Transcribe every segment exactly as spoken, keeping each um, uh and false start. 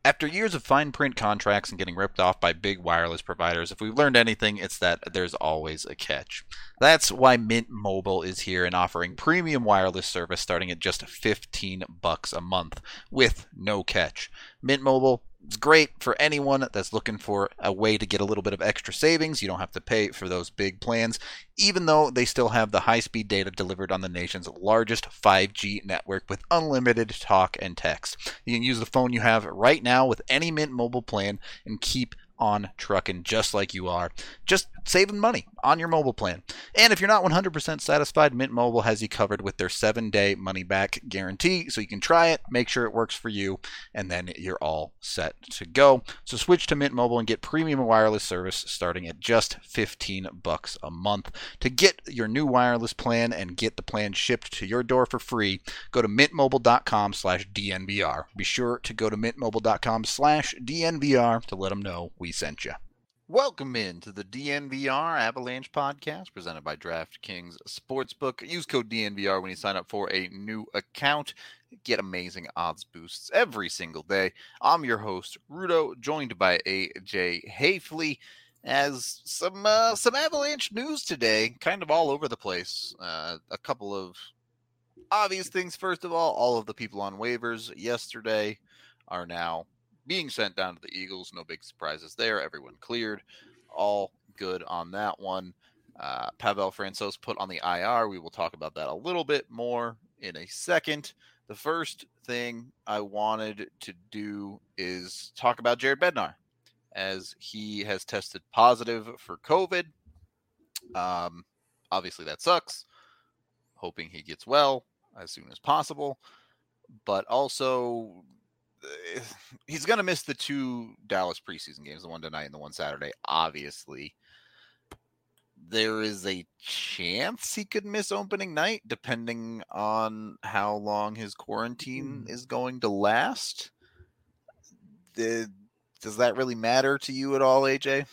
After years of fine print contracts and getting ripped off by big wireless providers, if we've learned anything, it's that there's always a catch. That's why Mint Mobile is here and offering premium wireless service starting at just fifteen bucks a month with no catch. Mint Mobile is great for anyone that's looking for a way to get a little bit of extra savings. You don't have to pay for those big plans, even though they still have the high-speed data delivered on the nation's largest five G network with unlimited talk and text. You can use the phone you have right now with any Mint Mobile plan and keep on trucking just like you are, just saving money on your mobile plan. And if you're not one hundred percent satisfied, Mint Mobile has you covered with their seven-day money-back guarantee, so you can try it, make sure it works for you, and then you're all set to go. So switch to Mint Mobile and get premium wireless service starting at just fifteen bucks a month. To get your new wireless plan and get the plan shipped to your door for free, go to mintmobile.com slash DNVR. Be sure to go to mintmobile.com slash DNVR to let them know we sent you. Welcome into the D N V R Avalanche podcast presented by DraftKings Sportsbook. Use code D N V R when you sign up for a new account. Get amazing odds boosts every single day. I'm your host, Rudo, joined by A J Hafley. As some uh, some Avalanche news today, kind of all over the place. Uh, a couple of obvious things. First of all, all of the people on waivers yesterday are now being sent down to the Eagles. No big surprises there. Everyone cleared. All good on that one. Uh, Pavel Francouz put on the I R. We will talk about that a little bit more in a second. The first thing I wanted to do is talk about Jared Bednar, as he has tested positive for COVID. Um, obviously, that sucks. Hoping he gets well as soon as possible. But also, he's going to miss the two Dallas preseason games, the one tonight and the one Saturday, obviously. There is a chance he could miss opening night, depending on how long his quarantine is going to last. The, does that really matter to you at all, A J?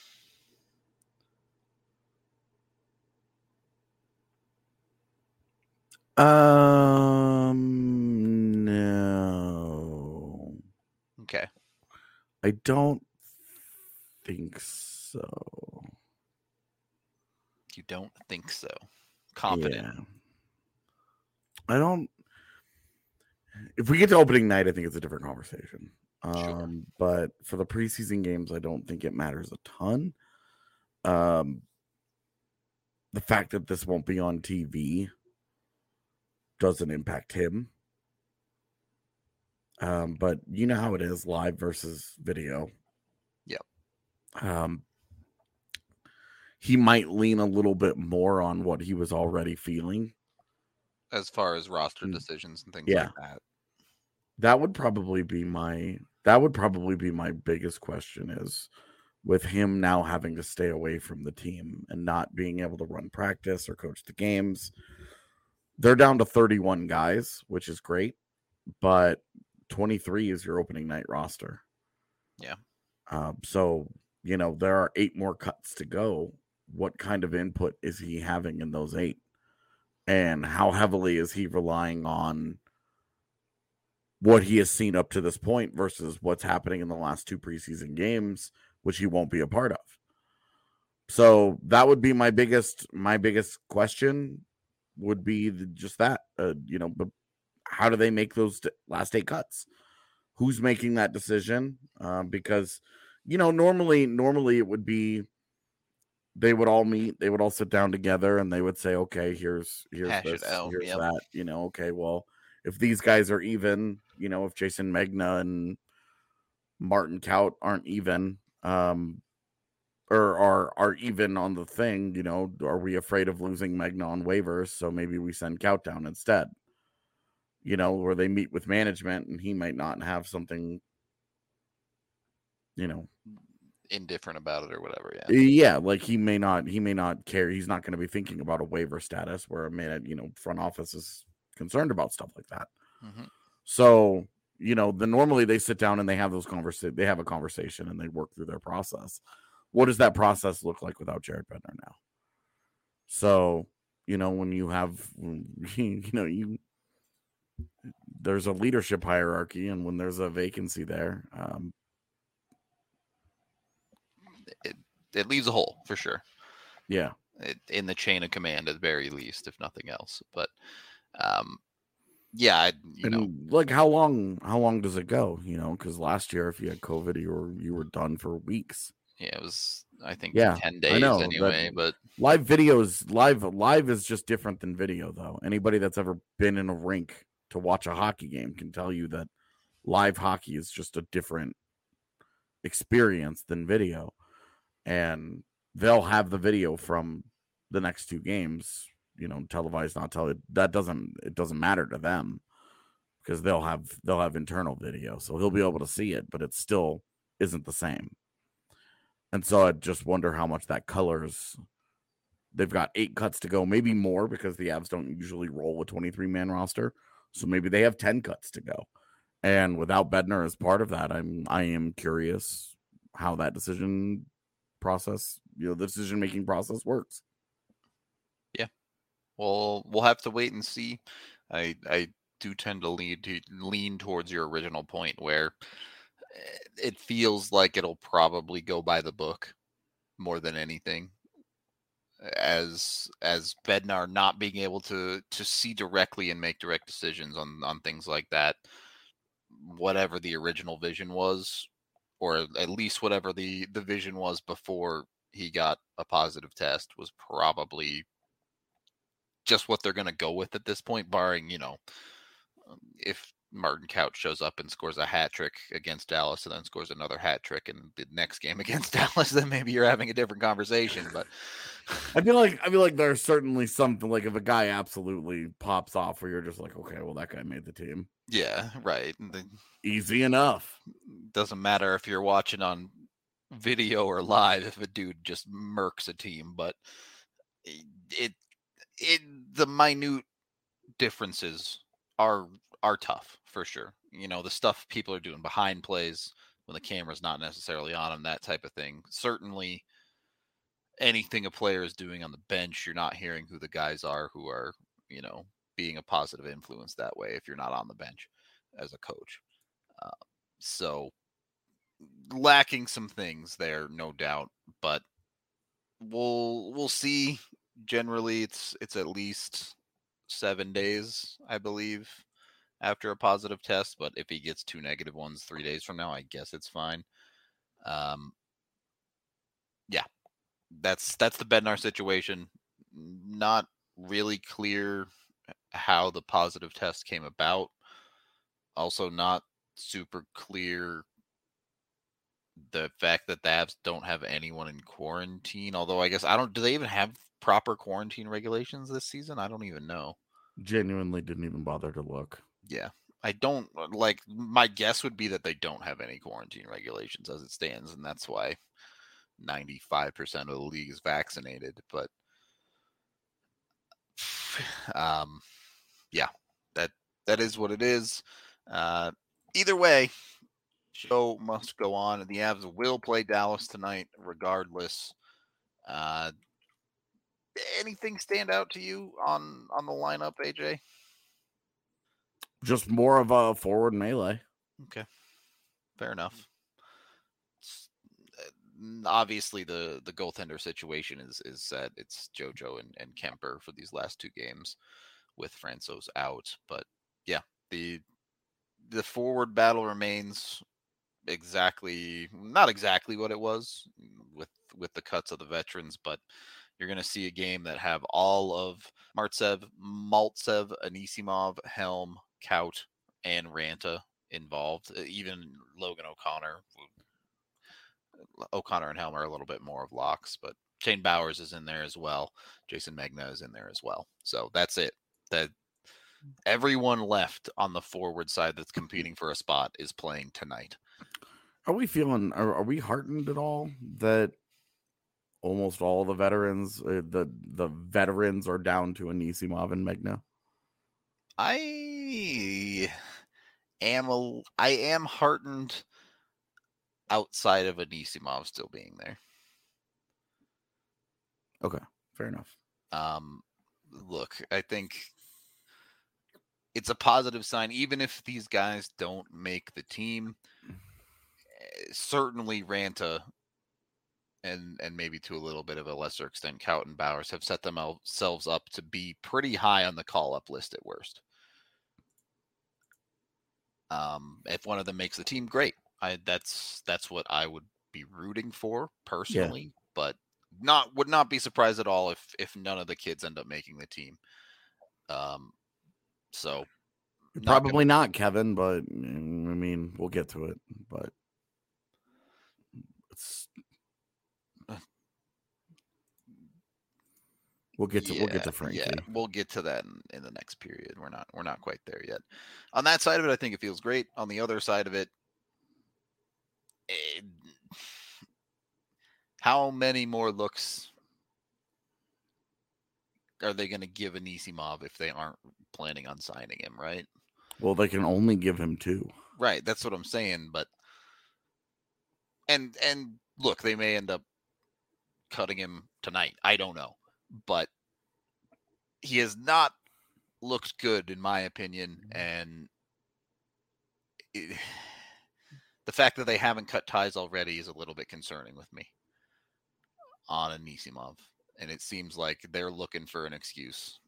Um, no. Okay. I don't think so. You don't think so? Confident. Yeah. I don't. If we get to opening night, I think it's a different conversation. Um, Sure. But for the preseason games, I don't think it matters a ton. Um, the fact that this won't be on T V doesn't impact him. Um, but you know how it is, live versus video. Yep. Um, he might lean a little bit more on what he was already feeling. As far as roster decisions and things yeah. like that. That would probably be my that would probably be my biggest question, is with him now having to stay away from the team and not being able to run practice or coach the games. They're down to thirty-one guys, which is great, but twenty-three is your opening night roster. Yeah. Um, so, you know, there are eight more cuts to go. What kind of input is he having in those eight? And how heavily is he relying on what he has seen up to this point versus what's happening in the last two preseason games, which he won't be a part of? So that would be my biggest, my biggest question would be the, just that, uh, you know, but how do they make those last eight cuts? Who's making that decision? Uh, because, you know, normally, normally it would be, they would all meet, they would all sit down together and they would say, okay, here's, here's Hash this, it out. here's Yep. that, you know, okay, well, if these guys are even, you know, if Jason Megna and Martin Kaut aren't even, um, or are, are even on the thing, you know, are we afraid of losing Megna on waivers? So maybe we send Kaut down instead, you know, where they meet with management and he might not have something, you know, indifferent about it or whatever. Yeah. Yeah. Like he may not, he may not care. He's not going to be thinking about a waiver status where a minute, you know, front office is concerned about stuff like that. Mm-hmm. So, you know, the normally they sit down and they have those conversations, they have a conversation and they work through their process. What does that process look like without Jared Bednar now? So, you know, when you have, you know, you, there's a leadership hierarchy, and when there's a vacancy there, um, it it leaves a hole for sure. Yeah, it, in the chain of command at the very least, if nothing else. But um, yeah, I, you and know, like how long? How long does it go? You know, because last year, if you had COVID, you were you were done for weeks. yeah, it was I think Yeah, ten I days know that anyway. But live videos, live live is just different than video, though. Anybody that's ever been in a rink to watch a hockey game can tell you that live hockey is just a different experience than video. And they'll have the video from the next two games, you know, televised, not televised. That doesn't it doesn't matter to them because they'll have they'll have internal video, so he'll be able to see it, but it still isn't the same. And so I just wonder how much that colors. They've got eight cuts to go, maybe more because the Avs don't usually roll a twenty-three man roster, so maybe they have ten cuts to go. And without Bednar as part of that, I'm I am curious how that decision process, you know, the decision making process works. Yeah, well, we'll have to wait and see. I I do tend to lean to lean towards your original point where it feels like it'll probably go by the book more than anything. As as Bednar not being able to to see directly and make direct decisions on on things like that, whatever the original vision was, or at least whatever the the vision was before he got a positive test, was probably just what they're going to go with at this point, barring, you know, if Martin Couch shows up and scores a hat trick against Dallas and then scores another hat trick in the next game against Dallas, then maybe you're having a different conversation. But I feel like I feel like there's certainly something like if a guy absolutely pops off where you're just like, okay, well that guy made the team. Yeah, right. Easy enough. Doesn't matter if you're watching on video or live if a dude just murks a team, but it it, it the minute differences are are tough for sure. You know, the stuff people are doing behind plays when the camera's not necessarily on them, that type of thing. Certainly anything a player is doing on the bench, you're not hearing who the guys are who are, you know, being a positive influence that way if you're not on the bench as a coach. Uh, so lacking some things there, no doubt, but we'll we'll see. Generally, it's it's at least seven days, I believe, after a positive test. But if he gets two negative ones three days from now, I guess it's fine. Um, yeah, that's that's the Bednar situation. Not really clear how the positive test came about. Also, not super clear the fact that the Avs don't have anyone in quarantine. Although I guess I don't. Do they even have proper quarantine regulations this season? I don't even know. Genuinely didn't even bother to look. Yeah, I don't like. My guess would be that they don't have any quarantine regulations as it stands, and that's why ninety-five percent of the league is vaccinated. But um, yeah, that that is what it is. Uh, either way, show must go on, and the Avs will play Dallas tonight, regardless. Uh, anything stand out to you on on the lineup, A J? Just more of a forward melee. Okay, fair enough. It's, uh, obviously, the the goaltender situation is is set. It's JoJo and, and Kemper for these last two games, with Francouz out. But yeah, the the forward battle remains exactly not exactly what it was with with the cuts of the veterans, but you're going to see a game that have all of Martsev, Maltsev, Anisimov, Helm, Kaut, and Ranta involved. Even Logan O'Connor. O'Connor and Helm are a little bit more of locks, but Shane Bowers is in there as well. Jason Megna is in there as well. So that's it. That everyone left on the forward side that's competing for a spot is playing tonight. Are we feeling? Are, are we heartened at all that almost all the veterans, uh, the the veterans, are down to Anisimov and Megna? I am a, I am heartened outside of Anisimov still being there. Okay, fair enough. Um, look, I think it's a positive sign, even if these guys don't make the team. Certainly Ranta and and maybe to a little bit of a lesser extent Kautenbauers have set themselves up to be pretty high on the call-up list at worst. Um, if one of them makes the team, great. I that's that's what I would be rooting for personally, yeah. But not would not be surprised at all if if none of the kids end up making the team. Um, so not probably gonna... not, Kevin, but I mean we'll get to it. But it's we'll get to yeah, we'll get to Frankie. Yeah, we'll get to that in, in the next period. We're not we're not quite there yet. On that side of it, I think it feels great. On the other side of it, it how many more looks are they going to give Anisimov if they aren't planning on signing him, right? Well, they can only give him two. Right, that's what I'm saying, but and and look, they may end up cutting him tonight. I don't know. But he has not looked good, in my opinion, and it, the fact that they haven't cut ties already is a little bit concerning with me on Anisimov, and it seems like they're looking for an excuse.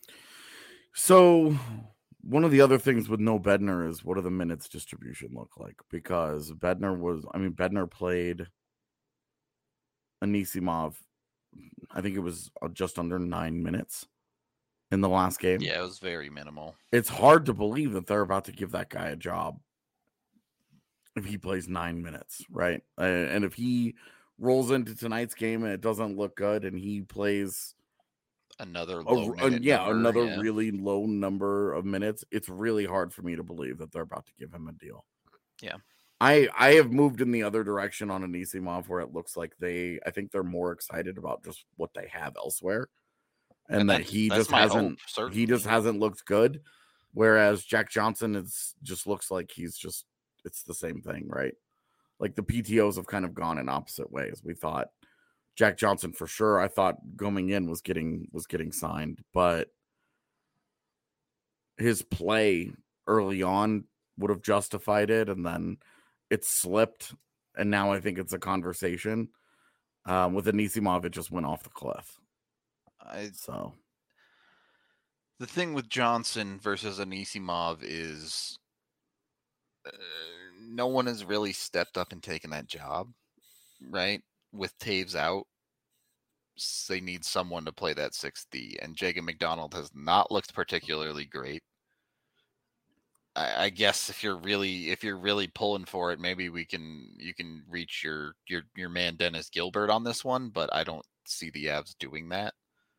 So one of the other things with no Bednar is what do the minutes distribution look like? Because Bednar was, I mean, Bednar played Anisimov, I think it was just under nine minutes in the last game. Yeah, it was very minimal. It's hard to believe that they're about to give that guy a job if he plays nine minutes, right? Uh, and if he rolls into tonight's game and it doesn't look good and he plays another low a, a, yeah, number, another yeah. really low number of minutes, it's really hard for me to believe that they're about to give him a deal. Yeah. I, I have moved in the other direction on Anisimov where it looks like they, I think they're more excited about just what they have elsewhere, and, and that he just hasn't, hope, he just hasn't looked good. Whereas Jack Johnson is just looks like he's just, it's the same thing, right? Like the P T Os have kind of gone in opposite ways. We thought Jack Johnson for sure, I thought going in was getting, was getting signed, but his play early on would have justified it. And then it slipped, and now I think it's a conversation. Um, with Anisimov, it just went off the cliff. I, so the thing with Johnson versus Anisimov is uh, no one has really stepped up and taken that job, right? With Taves out, they need someone to play that six D, and Jacob McDonald has not looked particularly great. I guess if you're really if you're really pulling for it, maybe we can you can reach your your your man Dennis Gilbert on this one, but I don't see the Avs doing that.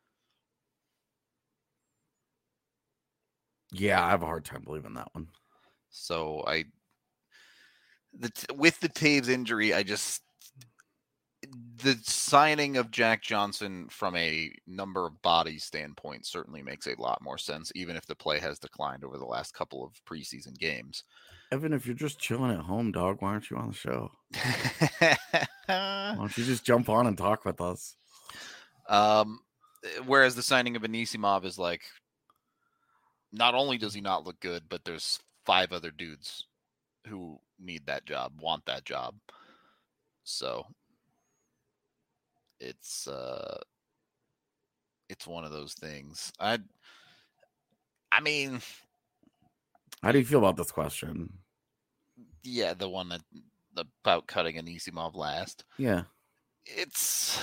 Yeah, I have a hard time believing that one. So I the with the Taves injury, I just the signing of Jack Johnson from a number of bodies standpoint certainly makes a lot more sense, even if the play has declined over the last couple of preseason games. Evan, if you're just chilling at home, dog, why aren't you on the show? Why don't you just jump on and talk with us? Um, whereas the signing of Anisimov is like, not only does he not look good, but there's five other dudes who need that job, want that job. So it's uh it's one of those things. I I mean, how do you feel about this question? Yeah, the one that about cutting Anisimov last. Yeah. It's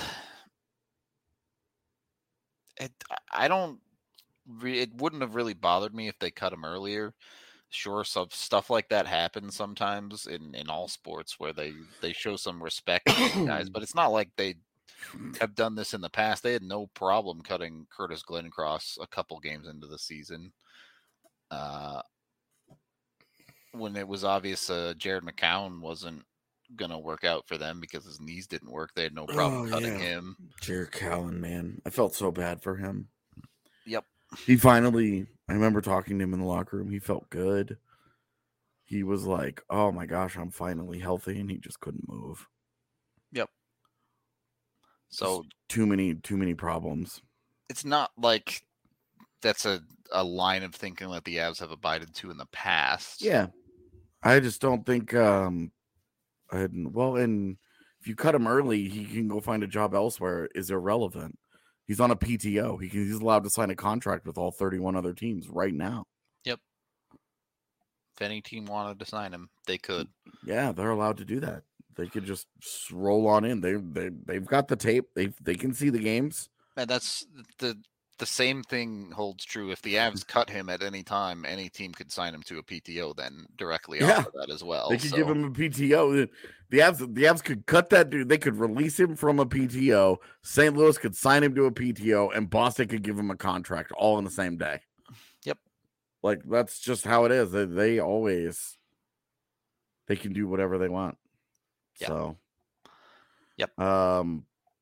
it I don't it wouldn't have really bothered me if they cut him earlier. Sure, some stuff like that happens sometimes in, in all sports where they, they show some respect to guys, but it's not like they have done this in the past. They had no problem cutting Curtis Glencross a couple games into the season. Uh, when it was obvious uh, Jared McCown wasn't going to work out for them because his knees didn't work, they had no problem oh, cutting yeah. him. Jared Cowan, man. I felt so bad for him. Yep. He finally, I remember talking to him in the locker room. He felt good. He was like, oh my gosh, I'm finally healthy. And he just couldn't move. Yep. So just too many, too many problems. It's not like that's a, a line of thinking that the Avs have abided to in the past. Yeah. I just don't think, um, and, well, and if you cut him early, he can go find a job elsewhere is irrelevant. He's on a P T O. He can, he's allowed to sign a contract with all thirty-one other teams right now. Yep. If any team wanted to sign him, they could. Yeah, they're allowed to do that. They could just roll on in. They they they've got the tape. They they can see the games. And that's the the same thing holds true. If the Avs cut him at any time, any team could sign him to a P T O then directly Yeah. off of that as well. They could so. give him a P T O. The Avs the Avs could cut that dude. They could release him from a P T O. Saint Louis could sign him to a P T O, and Boston could give him a contract all in the same day. Yep. Like that's just how it is. They, they always they can do whatever they want. Yep. So. Yep. Um.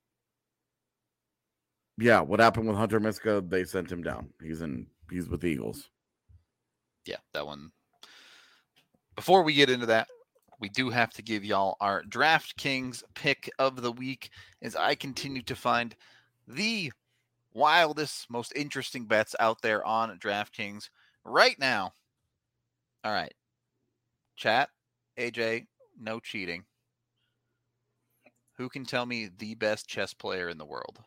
Yeah, what happened with Hunter Miska? They sent him down. He's in. He's with the Eagles. Yeah, that one. Before we get into that, we do have to give y'all our DraftKings pick of the week as I continue to find the wildest, most interesting bets out there on DraftKings right now. All right. Chat, A J, no cheating. Who can tell me the best chess player in the world?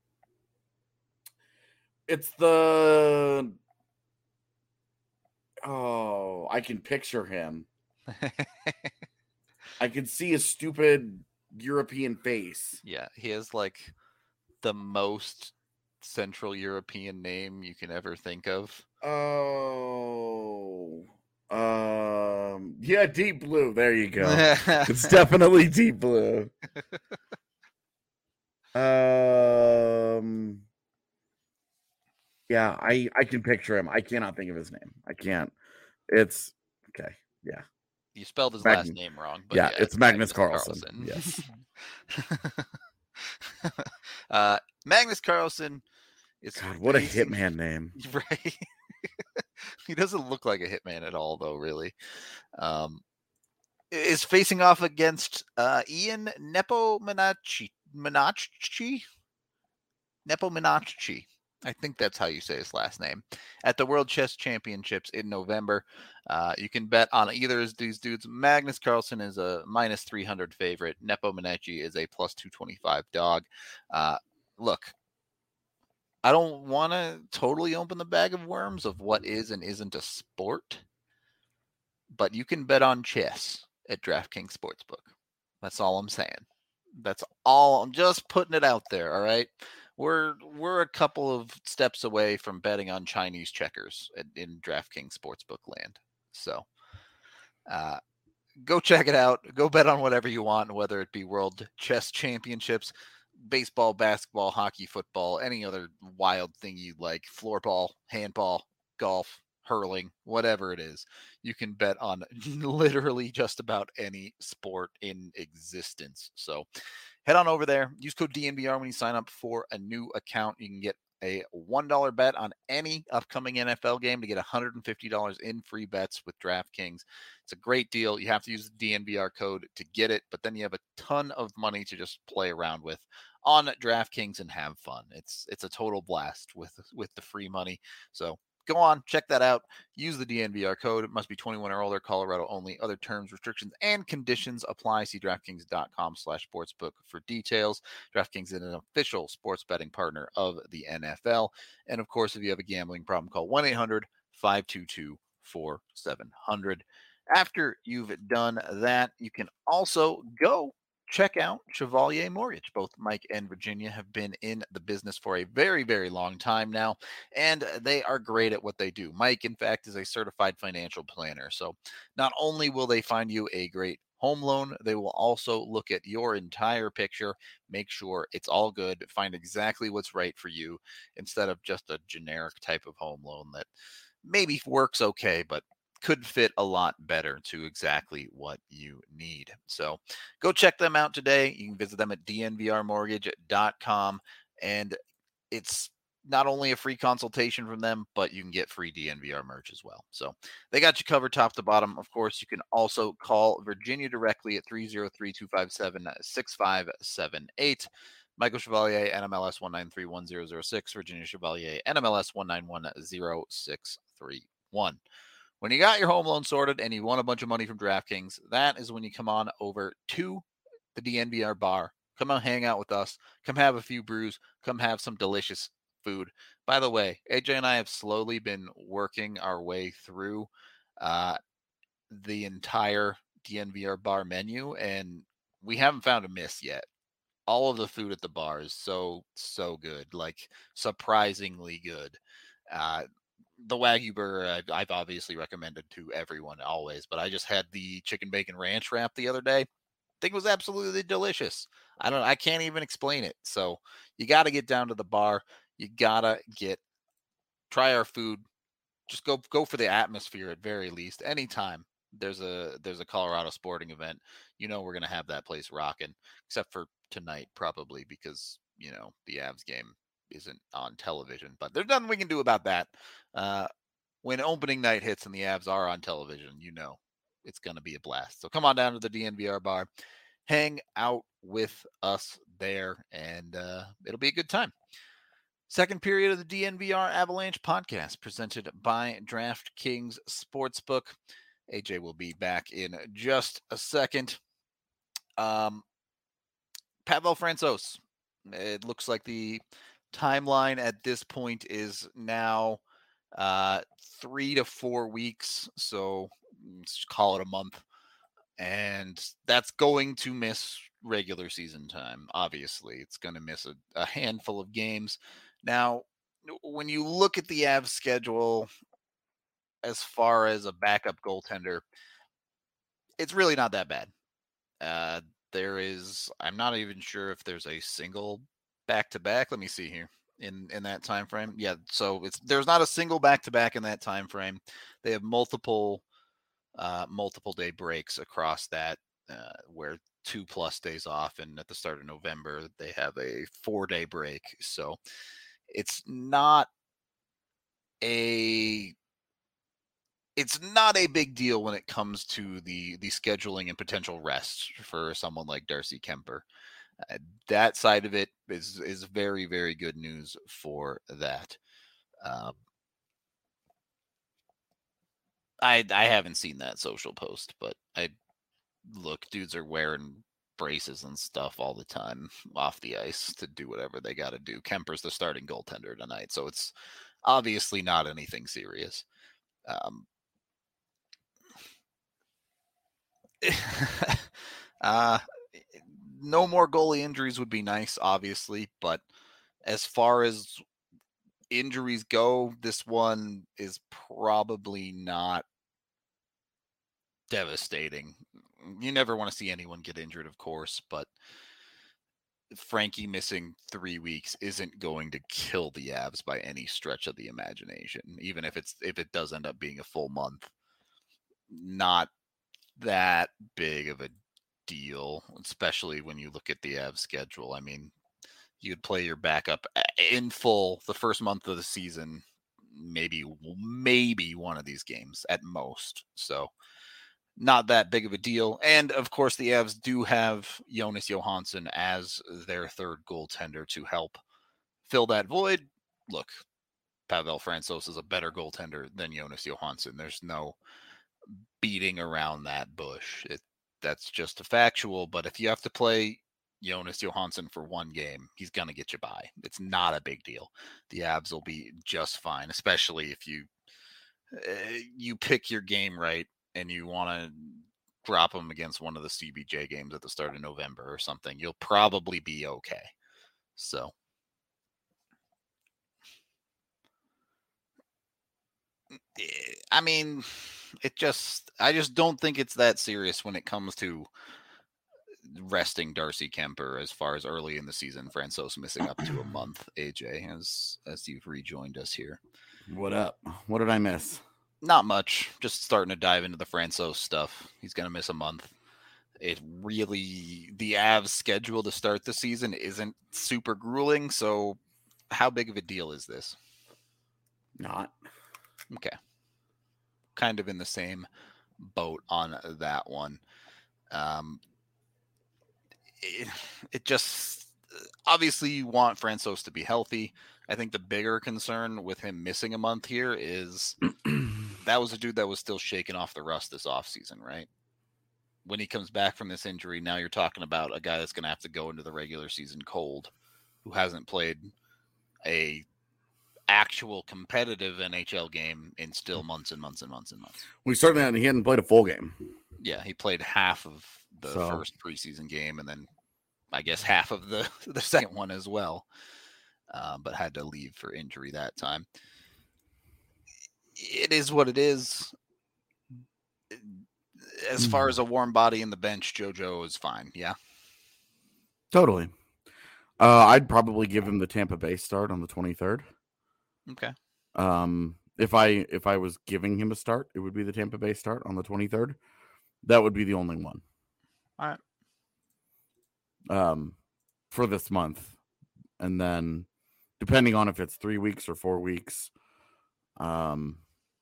It's the... Oh, I can picture him. I can see a stupid European face. Yeah, he has like the most Central European name you can ever think of. Oh, um, yeah, Deep Blue. There you go. It's definitely Deep Blue. um, yeah, I I can picture him. I cannot think of his name. I can't. It's okay. Yeah. You spelled his Magn- last name wrong. But yeah, yeah, it's, it's Magnus, Magnus Carlsen. Carlsen. Yes. uh, Magnus Carlsen is God, what facing... a hitman name. Right. He doesn't look like a hitman at all, though, really. Um, is facing off against uh, Ian Nepomucci. Minacci? Nepomucci. I think that's how you say his last name. At the World Chess Championships in November. Uh, you can bet on either of these dudes. Magnus Carlsen is a minus three hundred favorite. Nepomucci is a plus two twenty-five dog. Uh, look, I don't want to totally open the bag of worms of what is and isn't a sport, but you can bet on chess at DraftKings Sportsbook. That's all I'm saying. That's all. I'm just putting it out there, all right? We're we're a couple of steps away from betting on Chinese checkers in, in DraftKings Sportsbook land. So uh, go check it out. Go bet on whatever you want, whether it be World Chess Championships, baseball, basketball, hockey, football, any other wild thing you like, floorball, handball, golf, hurling, whatever it is. You can bet on literally just about any sport in existence. So head on over there. Use code D N V R when you sign up for a new account. You can get a one dollar bet on any upcoming N F L game to get one hundred fifty dollars in free bets with DraftKings. It's a great deal. You have to use the D N V R code to get it, but then you have a ton of money to just play around with on DraftKings and have fun. It's it's a total blast with with the free money. So go on, check that out. Use the D N V R code. It must be twenty-one or older, Colorado only. Other terms, restrictions, and conditions apply. See DraftKings.com slash sportsbook for details. DraftKings is an official sports betting partner of the N F L. And of course, if you have a gambling problem, call one eight hundred five two two four seven zero zero. After you've done that, you can also go check out Chevalier Mortgage. Both Mike and Virginia have been in the business for a very, very long time now, and they are great at what they do. Mike, in fact, is a certified financial planner. So not only will they find you a great home loan, they will also look at your entire picture, make sure it's all good, find exactly what's right for you instead of just a generic type of home loan that maybe works okay, but could fit a lot better to exactly what you need. So go check them out today. You can visit them at D N V R mortgage dot com, and it's not only a free consultation from them, but you can get free D N V R merch as well. So they got you covered top to bottom. Of course, you can also call Virginia directly at three oh three, two five seven, six five seven eight. Michael Chevalier, N M L S one nine three one zero zero six, Virginia Chevalier, N M L S one nine one zero six three one. When you got your home loan sorted and you want a bunch of money from DraftKings, that is when you come on over to the D N V R bar. Come out, hang out with us. Come have a few brews. Come have some delicious food. By the way, A J and I have slowly been working our way through uh, the entire D N V R bar menu, and we haven't found a miss yet. All of the food at the bar is so, so good, like surprisingly good. Uh, the Wagyu burger I've, I've obviously recommended to everyone always, but I just had the chicken bacon ranch wrap the other day. I think it was absolutely delicious. I don't, I can't even explain it. So you got to get down to the bar. You gotta get, try our food. Just go, go for the atmosphere at very least. Anytime there's a, there's a Colorado sporting event, you know, we're going to have that place rocking, except for tonight, probably because, you know, the Avs game isn't on television, but there's nothing we can do about that. Uh, when opening night hits and the Avs are on television, you know, it's going to be a blast. So come on down to the D N V R bar, hang out with us there, and uh, it'll be a good time. Second period of the D N V R Avalanche podcast presented by DraftKings Sportsbook. A J will be back in just a second. Um, Pavel Francouz. It looks like the timeline at this point is now uh, three to four weeks. So let's call it a month. And that's going to miss regular season time. Obviously, it's going to miss a, a handful of games. Now, when you look at the Avs schedule as far as a backup goaltender, it's really not that bad. Uh, there is, I'm not even sure if there's a single back to back. Let me see here in in that time frame. Yeah, so it's there's not a single back to back in that time frame. They have multiple uh, multiple day breaks across that, uh, where two plus days off, and at the start of November they have a four day break. So it's not a it's not a big deal when it comes to the the scheduling and potential rest for someone like Darcy Kuemper. Uh, that side of it is is very, very good news for that. Um, I I haven't seen that social post, but I look, dudes are wearing braces and stuff all the time off the ice to do whatever they got to do. Kemper's the starting goaltender tonight, so it's obviously not anything serious. Um, uh, no more goalie injuries would be nice, obviously, but as far as injuries go, this one is probably not devastating. You never want to see anyone get injured, of course, but Frankie missing three weeks isn't going to kill the Avs by any stretch of the imagination, even if it's if it does end up being a full month. Not that big of a deal, especially when you look at the Avs schedule. I mean, you'd play your backup in full the first month of the season, maybe maybe one of these games at most. So not that big of a deal. And of course, the Avs do have Jonas Johansson as their third goaltender to help fill that void. Look, Pavel Francouz is a better goaltender than Jonas Johansson. There's no beating around that bush. It, that's just a factual. But if you have to play Jonas Johansson for one game, he's going to get you by. It's not a big deal. The Avs will be just fine, especially if you uh, you pick your game right and you want to drop them against one of the C B J games at the start of November or something. You'll probably be okay. So I mean, it just I just don't think it's that serious when it comes to resting Darcy Kuemper as far as early in the season. Francouz missing up to a month. A J, as as you've rejoined us here. What up? What did I miss? Not much. Just starting to dive into the Francouz stuff. He's gonna miss a month. It really the Avs schedule to start the season isn't super grueling. So, how big of a deal is this? Not. Okay. Kind of in the same boat on that one. Um, it, it just, obviously you want Francouz to be healthy. I think the bigger concern with him missing a month here is that was a dude that was still shaking off the rust this offseason, right? When he comes back from this injury, now you're talking about a guy that's going to have to go into the regular season cold, who hasn't played a actual competitive N H L game in still months and months and months and months. We certainly hadn't, he hadn't played a full game. Yeah, he played half of the so. first preseason game, and then I guess half of the, the second one as well, uh, but had to leave for injury that time. It is what it is. As far as a warm body in the bench, JoJo is fine. Yeah, totally. Uh, I'd probably give him the Tampa Bay start on the twenty-third. Okay. Um, if I if I was giving him a start, it would be the Tampa Bay start on the twenty-third. That would be the only one. All right. Um, for this month, and then depending on if it's three weeks or four weeks, um,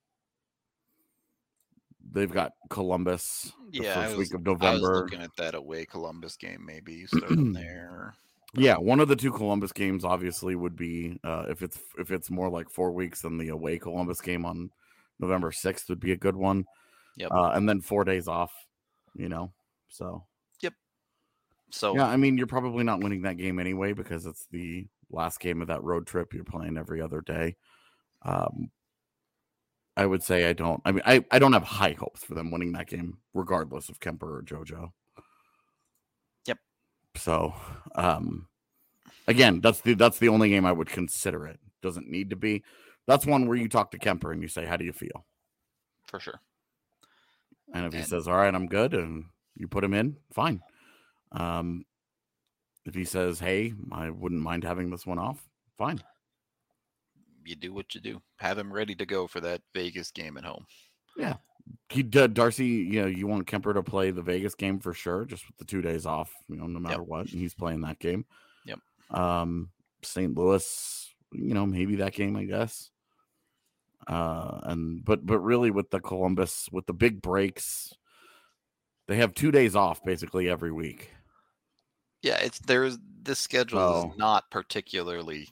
they've got Columbus the yeah, first was, week of November. I was looking at that away Columbus game. Maybe you start them there. Yeah, one of the two Columbus games obviously would be uh, if it's if it's more like four weeks, then the away Columbus game on November sixth would be a good one. Yep. Uh, and then four days off, you know. So. Yep. So. Yeah, I mean, you're probably not winning that game anyway because it's the last game of that road trip. You're playing every other day. Um, I would say I don't. I mean, I, I don't have high hopes for them winning that game, regardless of Kemper or JoJo. Yep. So, um, again, that's the that's the only game I would consider it. Doesn't need to be. That's one where you talk to Kemper and you say, "How do you feel?" For sure. And if and, he says, "All right, I'm good," and you put him in, fine. Um, if he says, "Hey, I wouldn't mind having this one off," fine. You do what you do. Have him ready to go for that Vegas game at home. Yeah. He did Darcy, you know, you want Kemper to play the Vegas game for sure, just with the two days off, you know, no matter yep. what. And he's playing that game. Yep. Um, Saint Louis, you know, maybe that game, I guess. Uh, and but but really with the Columbus, with the big breaks, they have two days off basically every week. Yeah, it's there's this schedule oh. is not particularly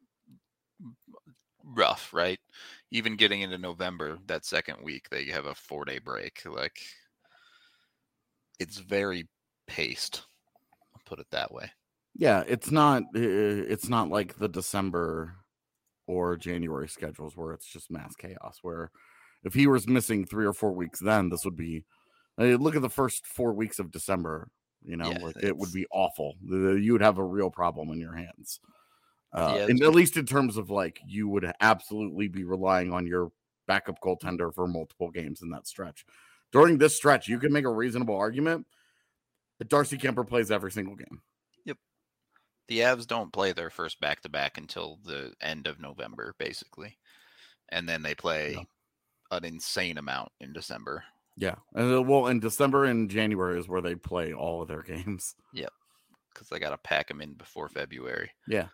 rough, right? Even getting into November, that second week, they have a four-day break. Like, it's very paced. I'll put it that way. Yeah, it's not. It's not like the December or January schedules where it's just mass chaos. Where if he was missing three or four weeks, then this would be. I mean, look at the first four weeks of December. You know, yeah, like it would be awful. You would have a real problem in your hands. Uh, yeah, and at least in terms of like, you would absolutely be relying on your backup goaltender for multiple games in that stretch. During this stretch, you can make a reasonable argument that Darcy Kemper plays every single game. Yep. The Avs don't play their first back-to-back until the end of November, basically. And then they play yeah. an insane amount in December. Yeah. And well, in December and January is where they play all of their games. Yep. Because they got to pack them in before February. Yeah.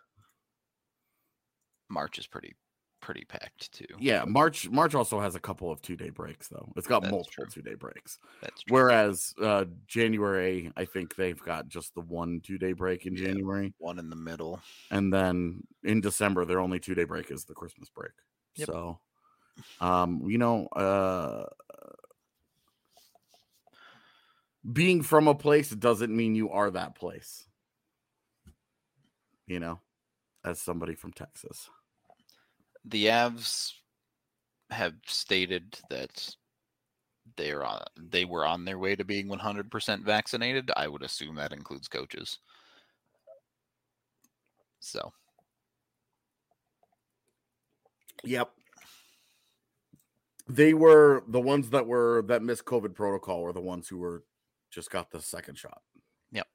March is pretty pretty packed too. Yeah, March March also has a couple of two-day breaks though. It's got That's multiple true. two-day breaks. That's true. Whereas uh, January, I think they've got just the one two-day break in yeah, January. One in the middle. And then in December, their only two-day break is the Christmas break. Yep. So, um, you know, uh, being from a place doesn't mean you are that place. You know, as somebody from Texas. The Avs have stated that they're on, they were on their way to being one hundred percent vaccinated. I would assume that includes coaches. So. Yep. They were the ones that were that missed COVID protocol were the ones who were just got the second shot. Yep.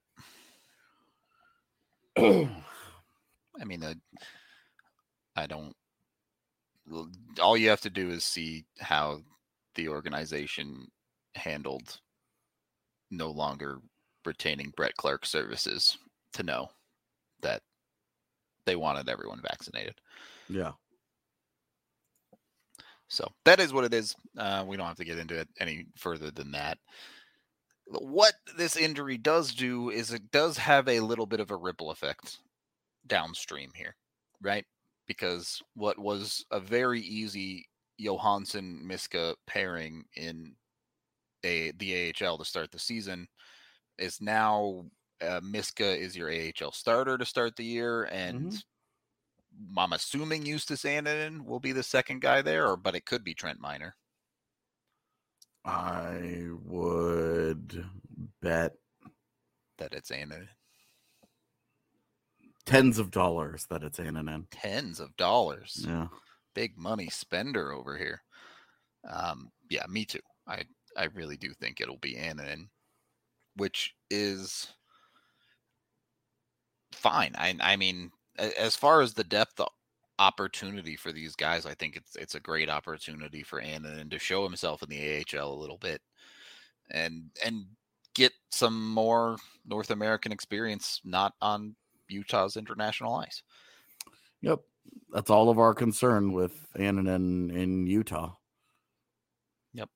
I mean, uh, I don't. All you have to do is see how the organization handled no longer retaining Brett Clark services to know that they wanted everyone vaccinated. Yeah. So that is what it is. Uh, we don't have to get into it any further than that. What this injury does do is it does have a little bit of a ripple effect downstream here, right? Because what was a very easy Johansson Miska pairing in a the A H L to start the season is now uh, Miska is your A H L starter to start the year, and mm-hmm. I'm assuming Justus Annunen will be the second guy there, or but it could be Trent Miner. I would bet that it's Annunen. Tens of dollars that it's Annunen. Tens of dollars. Yeah. Big money spender over here. Um, yeah, me too. I, I really do think it'll be Annunen, which is fine. I I mean, as far as the depth opportunity for these guys, I think it's it's a great opportunity for Annunen to show himself in the A H L a little bit and and get some more North American experience, not on Utah's international ice. Yep. That's all of our concern with Annunen in Utah. Yep.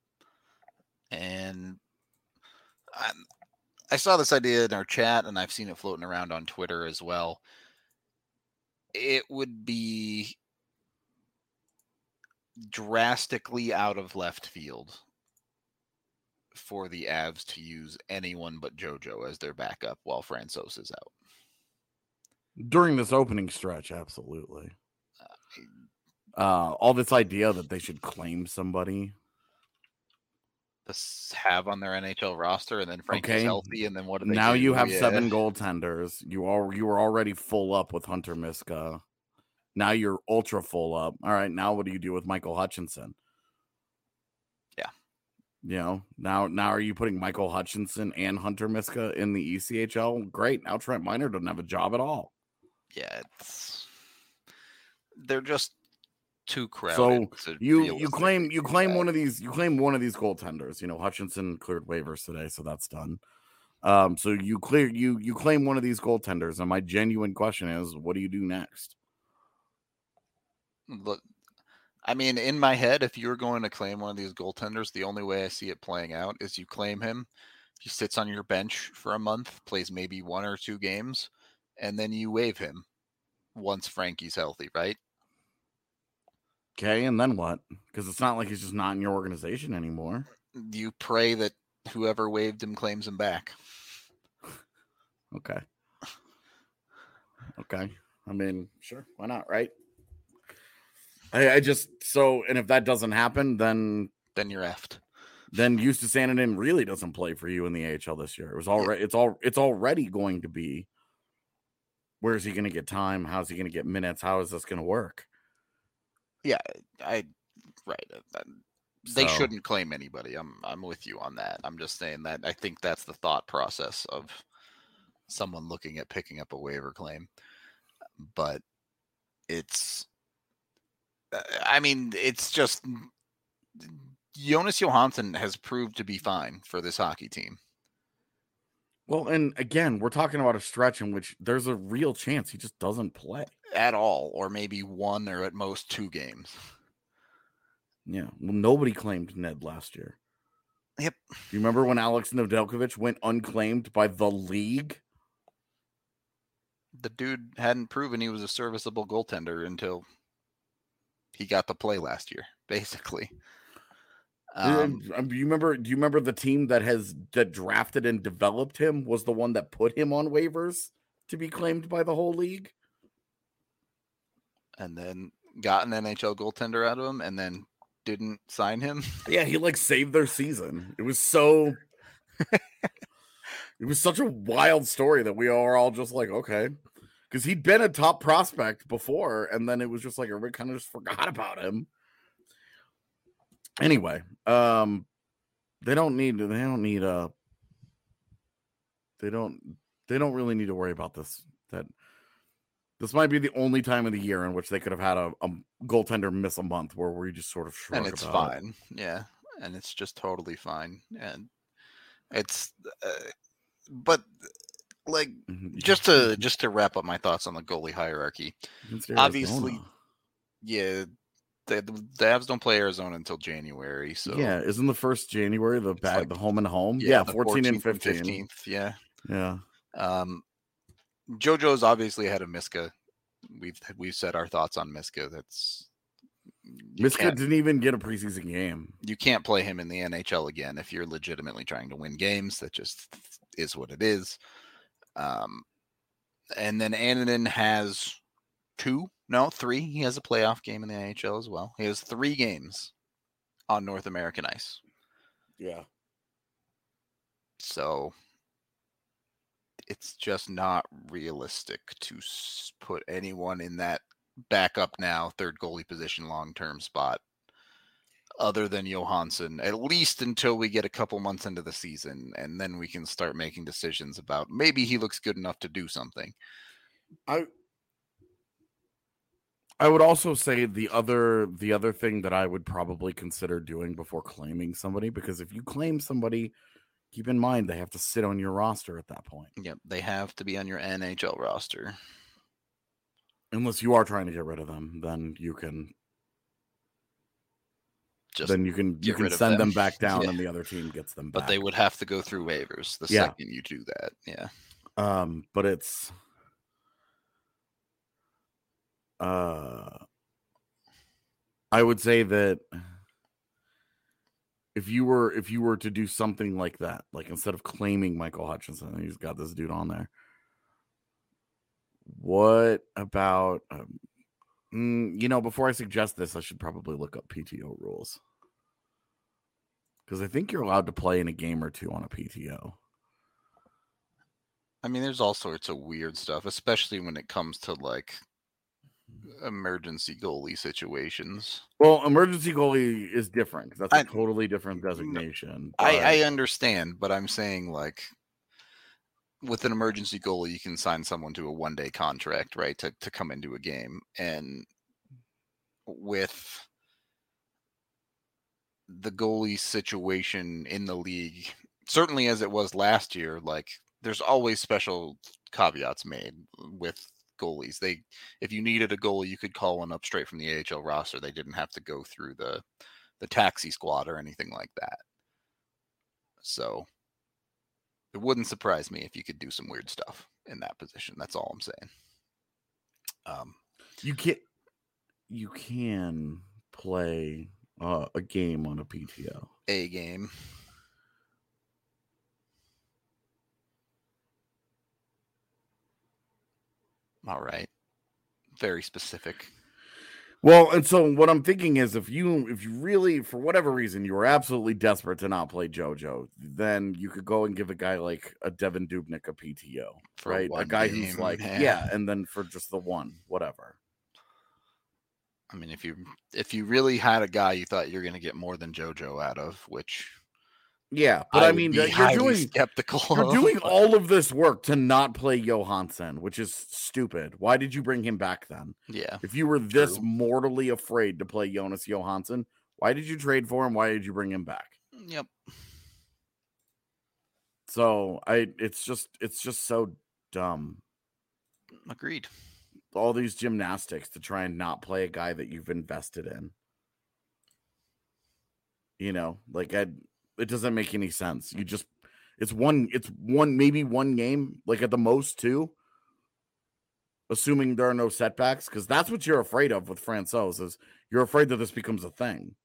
And I, I saw this idea in our chat, and I've seen it floating around on Twitter as well. It would be drastically out of left field for the Avs to use anyone but JoJo as their backup while Francouz is out. During this opening stretch, absolutely. Uh, all this idea that they should claim somebody. To have on their N H L roster, and then Frankie's okay. healthy, and then what do they now do? you have yeah. seven goaltenders. You are you were already full up with Hunter Miska. Now you're ultra full up. All right, now what do you do with Michael Hutchinson? Yeah. You know, now now are you putting Michael Hutchinson and Hunter Miska in the E C H L? Great. Now Trent Miner doesn't have a job at all. Yeah, it's they're just too crowded. So you you claim you claim that. one of these you claim one of these goaltenders. You know, Hutchinson cleared waivers today, so that's done. Um, so you clear you you claim one of these goaltenders, and my genuine question is, what do you do next? Look, I mean, in my head, if you're going to claim one of these goaltenders, the only way I see it playing out is you claim him. He sits on your bench for a month, plays maybe one or two games, and then you waive him once Frankie's healthy, right? Okay, and then what? Because it's not like he's just not in your organization anymore. You pray that whoever waived him claims him back. Okay. Okay. I mean, sure. Why not, right? I, I just, so, and if that doesn't happen, then... Then you're effed. Then Justus Annunen really doesn't play for you in the A H L this year. It was already, yeah. it's all, it's already going to be, where is he going to get time? How's he going to get minutes? How is this going to work? Yeah, I right. They so. shouldn't claim anybody. I'm I'm with you on that. I'm just saying that I think that's the thought process of someone looking at picking up a waiver claim. But it's, I mean, it's just Jonas Johansson has proved to be fine for this hockey team. Well, and again, we're talking about a stretch in which there's a real chance he just doesn't play at all, or maybe one or at most two games. Yeah. Well, nobody claimed Ned last year. Yep. You remember when Alex Nedeljkovic went unclaimed by the league? The dude hadn't proven he was a serviceable goaltender until he got to play last year, basically. Um, do you remember? Do you remember the team that has that drafted and developed him was the one that put him on waivers to be claimed by the whole league, and then got an N H L goaltender out of him, and then didn't sign him. Yeah, he like saved their season. It was so. It was such a wild story that we are all just like, okay, because he'd been a top prospect before, and then it was just like everybody kind of just forgot about him. Anyway, um, they don't need they don't need a they don't they don't really need to worry about this. That this might be the only time of the year in which they could have had a, a goaltender miss a month where we just sort of shrug and it's about fine, it. Yeah, and it's just totally fine, and it's uh, but like just to just to wrap up my thoughts on the goalie hierarchy, obviously, yeah. The, the Avs don't play Arizona until January, so yeah, isn't the first January the bad like, the home and home? Yeah, yeah fourteen and fifteen. fifteenth, yeah, yeah. Um, JoJo's obviously ahead of Miska. We've we've said our thoughts on Miska. That's Miska didn't even get a preseason game. You can't play him in the N H L again if you're legitimately trying to win games. That just is what it is. Um, and then Annunen has two, no, three. He has a playoff game in the N H L as well. He has three games on North American ice. Yeah. So it's just not realistic to put anyone in that backup now, third goalie position, long-term spot, other than Johansson, at least until we get a couple months into the season, and then we can start making decisions about maybe he looks good enough to do something. I I would also say the other the other thing that I would probably consider doing before claiming somebody, because if you claim somebody, keep in mind they have to sit on your roster at that point. Yep, they have to be on your N H L roster. Unless you are trying to get rid of them, then you can Just then you can you can send them. them back down, yeah. And the other team gets them back. But they would have to go through waivers the yeah. second you do that. Yeah. Um, but it's uh I would say that if you were if you were to do something like that, like instead of claiming Michael Hutchinson, he's got this dude on there. What about um, mm, you know, before I suggest this, I should probably look up P T O rules. Because I think you're allowed to play in a game or two on a P T O. I mean, there's all sorts of weird stuff, especially when it comes to like emergency goalie situations. Well, emergency goalie is different because that's a I, totally different designation. I, I understand, but I'm saying like with an emergency goalie, you can sign someone to a one-day contract, right, to to come into a game, and with the goalie situation in the league, certainly as it was last year, like there's always special caveats made with goalies. They, if you needed a goalie, you could call one up straight from the A H L roster. They didn't have to go through the the taxi squad or anything like that. So it wouldn't surprise me if you could do some weird stuff in that position. That's all I'm saying. Um, you can you can play uh, a game on a P T O. A game. All right. Very specific. Well, and so what I'm thinking is if you if you really, for whatever reason, you were absolutely desperate to not play JoJo, then you could go and give a guy like a Devin Dubnyk a P T O, for right? A guy game, who's like, man. yeah, and then for just the one, whatever. I mean, if you if you really had a guy you thought you're going to get more than JoJo out of, which yeah, but I, I mean, you're doing skeptical. You're doing all of this work to not play Johansson, which is stupid. Why did you bring him back then? Yeah, if you were this true. mortally afraid to play Jonas Johansson, why did you trade for him? Why did you bring him back? Yep. So I, it's just, it's just so dumb. Agreed. All these gymnastics to try and not play a guy that you've invested in. You know, like I. It doesn't make any sense. You just, it's one, it's one, maybe one game, like at the most two, assuming there are no setbacks, because that's what you're afraid of with Francouz, is you're afraid that this becomes a thing.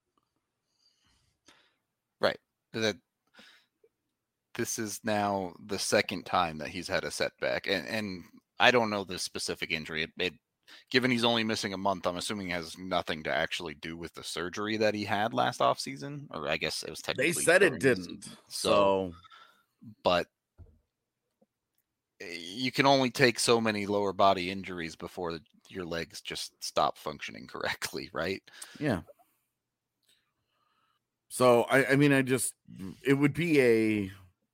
Right. That this is now the second time that he's had a setback, and and I don't know the specific injury. It, it given he's only missing a month, I'm assuming it has nothing to actually do with the surgery that he had last offseason. Or I guess it was technically. They said it didn't. So, so, but you can only take so many lower body injuries before your legs just stop functioning correctly, right? Yeah. So, I, I mean, I just, it would be a.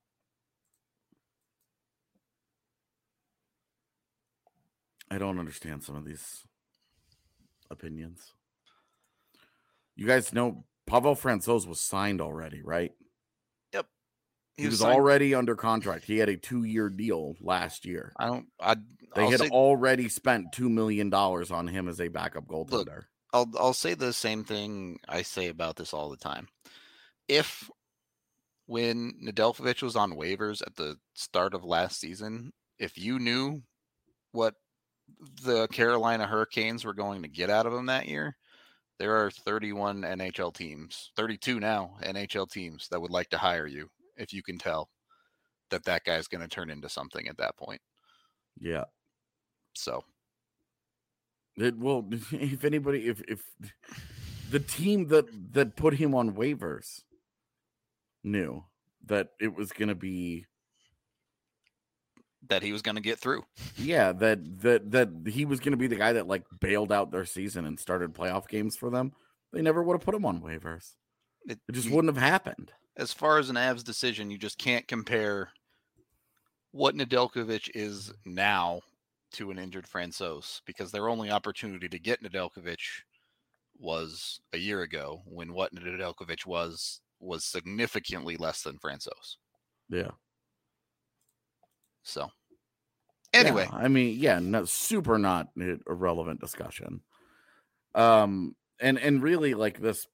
I don't understand some of these opinions. You guys know Pavel Francouz was signed already, right? Yep. He, he was, was already under contract. He had a two-year deal last year. I don't. I. They I'll had say, already spent two million dollars on him as a backup goaltender. Look, I'll I'll say the same thing I say about this all the time. If when Nedeljkovic was on waivers at the start of last season, if you knew what the Carolina Hurricanes were going to get out of him that year, there are thirty-one N H L teams, thirty-two now N H L teams that would like to hire you if you can tell that that guy's going to turn into something at that point. Yeah. So it will. If anybody, if if the team that that put him on waivers knew that it was going to be that he was going to get through. Yeah, that that that he was going to be the guy that like bailed out their season and started playoff games for them, they never would have put him on waivers. It, it just you, wouldn't have happened. As far as an Avs decision, you just can't compare what Nedeljkovic is now to an injured Francouz, because their only opportunity to get Nedeljkovic was a year ago, when what Nedeljkovic was was significantly less than Francouz. Yeah. So, anyway, yeah, I mean, yeah, no, super not a relevant discussion. Um, and and really like this,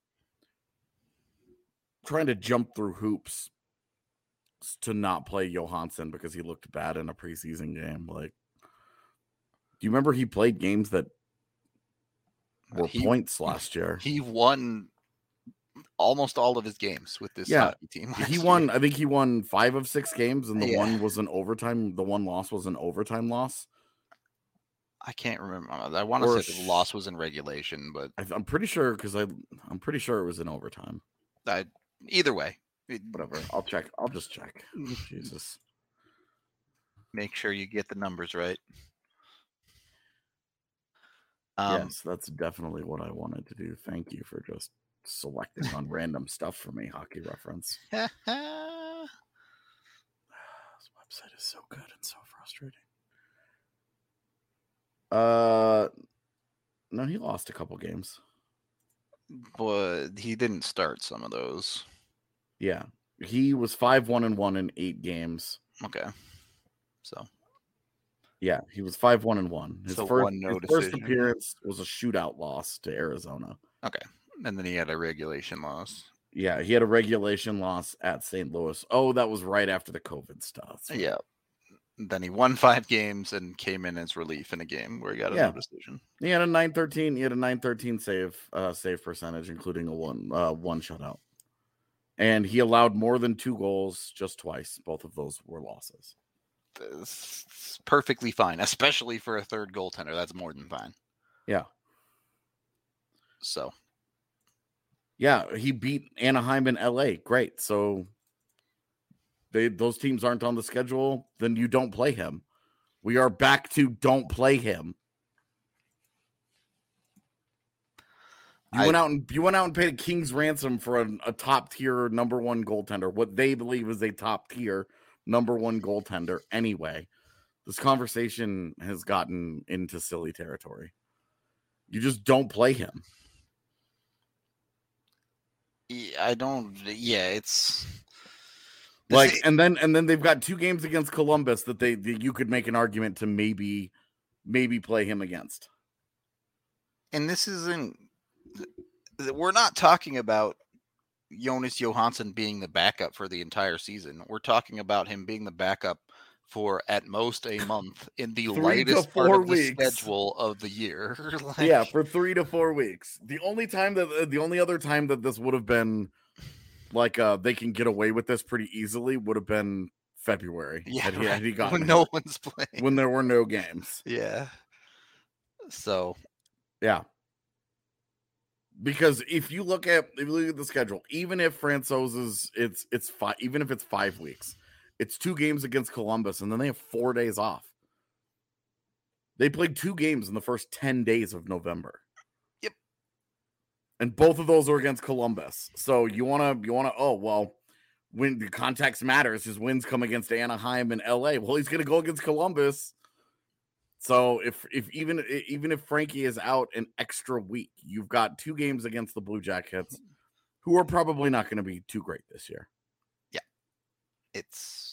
trying to jump through hoops to not play Johansson because he looked bad in a preseason game. Like, do you remember he played games that were he, points last year? He won almost all of his games with this yeah, hockey team. He won, year. I think he won five of six games, and the yeah. one was an overtime. The one loss was an overtime loss. I can't remember. I want to say the loss was in regulation, but I, I'm pretty sure because I I'm pretty sure it was in overtime. I, either way, whatever. I'll check. I'll just check. Jesus. Make sure you get the numbers right. Um, yes, that's definitely what I wanted to do. Thank you for just selecting on random stuff for me, Hockey Reference. This website is so good and so frustrating. Uh, no, he lost a couple games, but he didn't start some of those. Yeah, he was five one and one in eight games. Okay, so yeah, he was five one and one. His so first one no his first appearance was a shootout loss to Arizona. Okay. And then he had a regulation loss. Yeah, he had a regulation loss at Saint Louis. Oh, that was right after the COVID stuff. Right. Yeah. Then he won five games and came in as relief in a game where he got a yeah. no decision. He had a nine thirteen. He had a nine thirteen save uh, save percentage, including a one uh, one shutout. And he allowed more than two goals just twice. Both of those were losses. It's perfectly fine, especially for a third goaltender. That's more than fine. Yeah. So. Yeah, he beat Anaheim and L A. Great. So they those teams aren't on the schedule, then you don't play him. We are back to don't play him. You I, went out and you went out and paid a king's ransom for a, a top tier number one goaltender, what they believe is a top tier number one goaltender. Anyway, this conversation has gotten into silly territory. You just don't play him. I don't. Yeah, it's like, and then and then they've got two games against Columbus that they that you could make an argument to maybe maybe play him against. And this isn't. We're not talking about Jonas Johansson being the backup for the entire season. We're talking about him being the backup for at most a month in the lightest part of the weeks. schedule of the year. like, yeah, for three to four weeks. The only time that the only other time that this would have been like uh, they can get away with this pretty easily would have been February. Yeah, had he, had he when no one's playing, when there were no games. Yeah. So, yeah. Because if you look at if you look at the schedule, even if Francouz is it's it's five, even if it's five weeks. It's two games against Columbus, and then they have four days off. They played two games in the first ten days of November. Yep. And both of those are against Columbus. So you want to, you want to, oh, well, when the context matters, his wins come against Anaheim and L A. Well, he's going to go against Columbus. So if, if even, even if Frankie is out an extra week, you've got two games against the Blue Jackets, who are probably not going to be too great this year. Yeah. It's,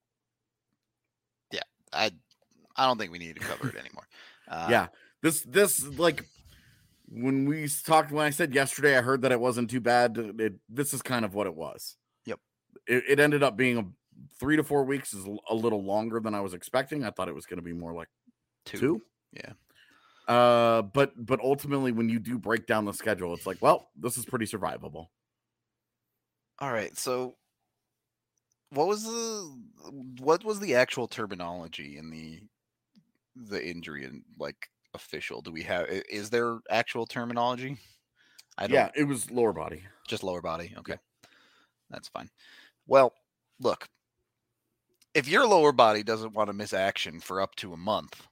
I I don't think we need to cover it anymore. Uh, yeah, this this like when we talked when I said yesterday, I heard that it wasn't too bad. It, this is kind of what it was. Yep. It, it ended up being a three to four weeks is a little longer than I was expecting. I thought it was going to be more like Two. Two? Yeah. Uh, but but ultimately, when you do break down the schedule, it's like, well, this is pretty survivable. All right, so what was the what was the actual terminology in the the injury and like official? Do we have i- is there actual terminology? I don't Yeah, it was lower body. just lower body. Okay. Yeah. That's fine. Well, look, if your lower body doesn't want to miss action for up to a month,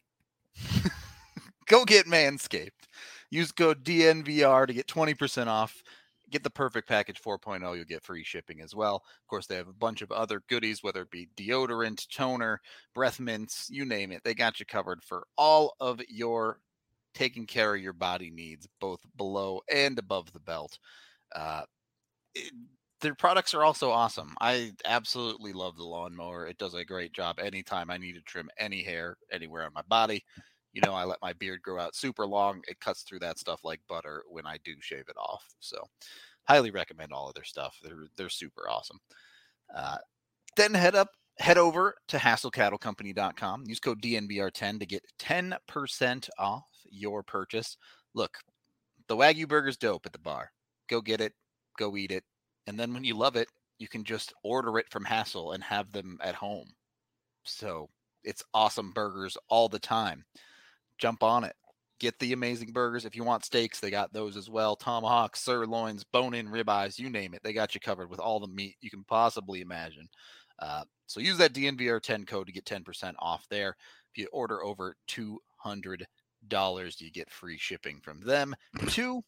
go get Manscaped. Use code D N V R to get twenty percent off. Get the Perfect Package four point oh. You'll get free shipping as well. Of course, they have a bunch of other goodies, whether it be deodorant, toner, breath mints, you name it. They got you covered for all of your taking care of your body needs, both below and above the belt. Uh, it, their products are also awesome. I absolutely love the lawnmower. It does a great job anytime I need to trim any hair anywhere on my body. You know, I let my beard grow out super long. It cuts through that stuff like butter when I do shave it off. So, highly recommend all of their stuff. They're they're super awesome. Uh, then head up, head over to hassle cattle company dot com. Use code D N V R ten to get ten percent off your purchase. Look, the Wagyu burger's dope at the bar. Go get it, go eat it, and then when you love it, you can just order it from Hassel and have them at home. So it's awesome burgers all the time. Jump on it. Get the amazing burgers. If you want steaks, they got those as well. Tomahawks, sirloins, bone-in ribeyes, you name it. They got you covered with all the meat you can possibly imagine. Uh, so use that D N V R ten code to get ten percent off there. If you order over two hundred dollars, you get free shipping from them too.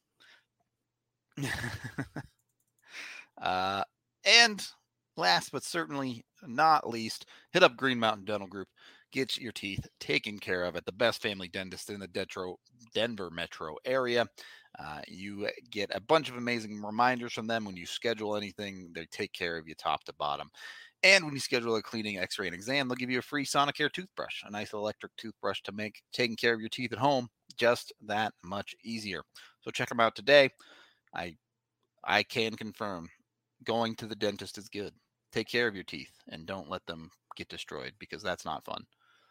uh, and last but certainly not least, hit up Green Mountain Dental Group. Get your teeth taken care of at the best family dentist in the Detro, Denver metro area. Uh, you get a bunch of amazing reminders from them when you schedule anything. They take care of you top to bottom. And when you schedule a cleaning, x-ray, and exam, they'll give you a free Sonicare toothbrush, a nice electric toothbrush to make taking care of your teeth at home just that much easier. So check them out today. I I can confirm going to the dentist is good. Take care of your teeth and don't let them get destroyed because that's not fun.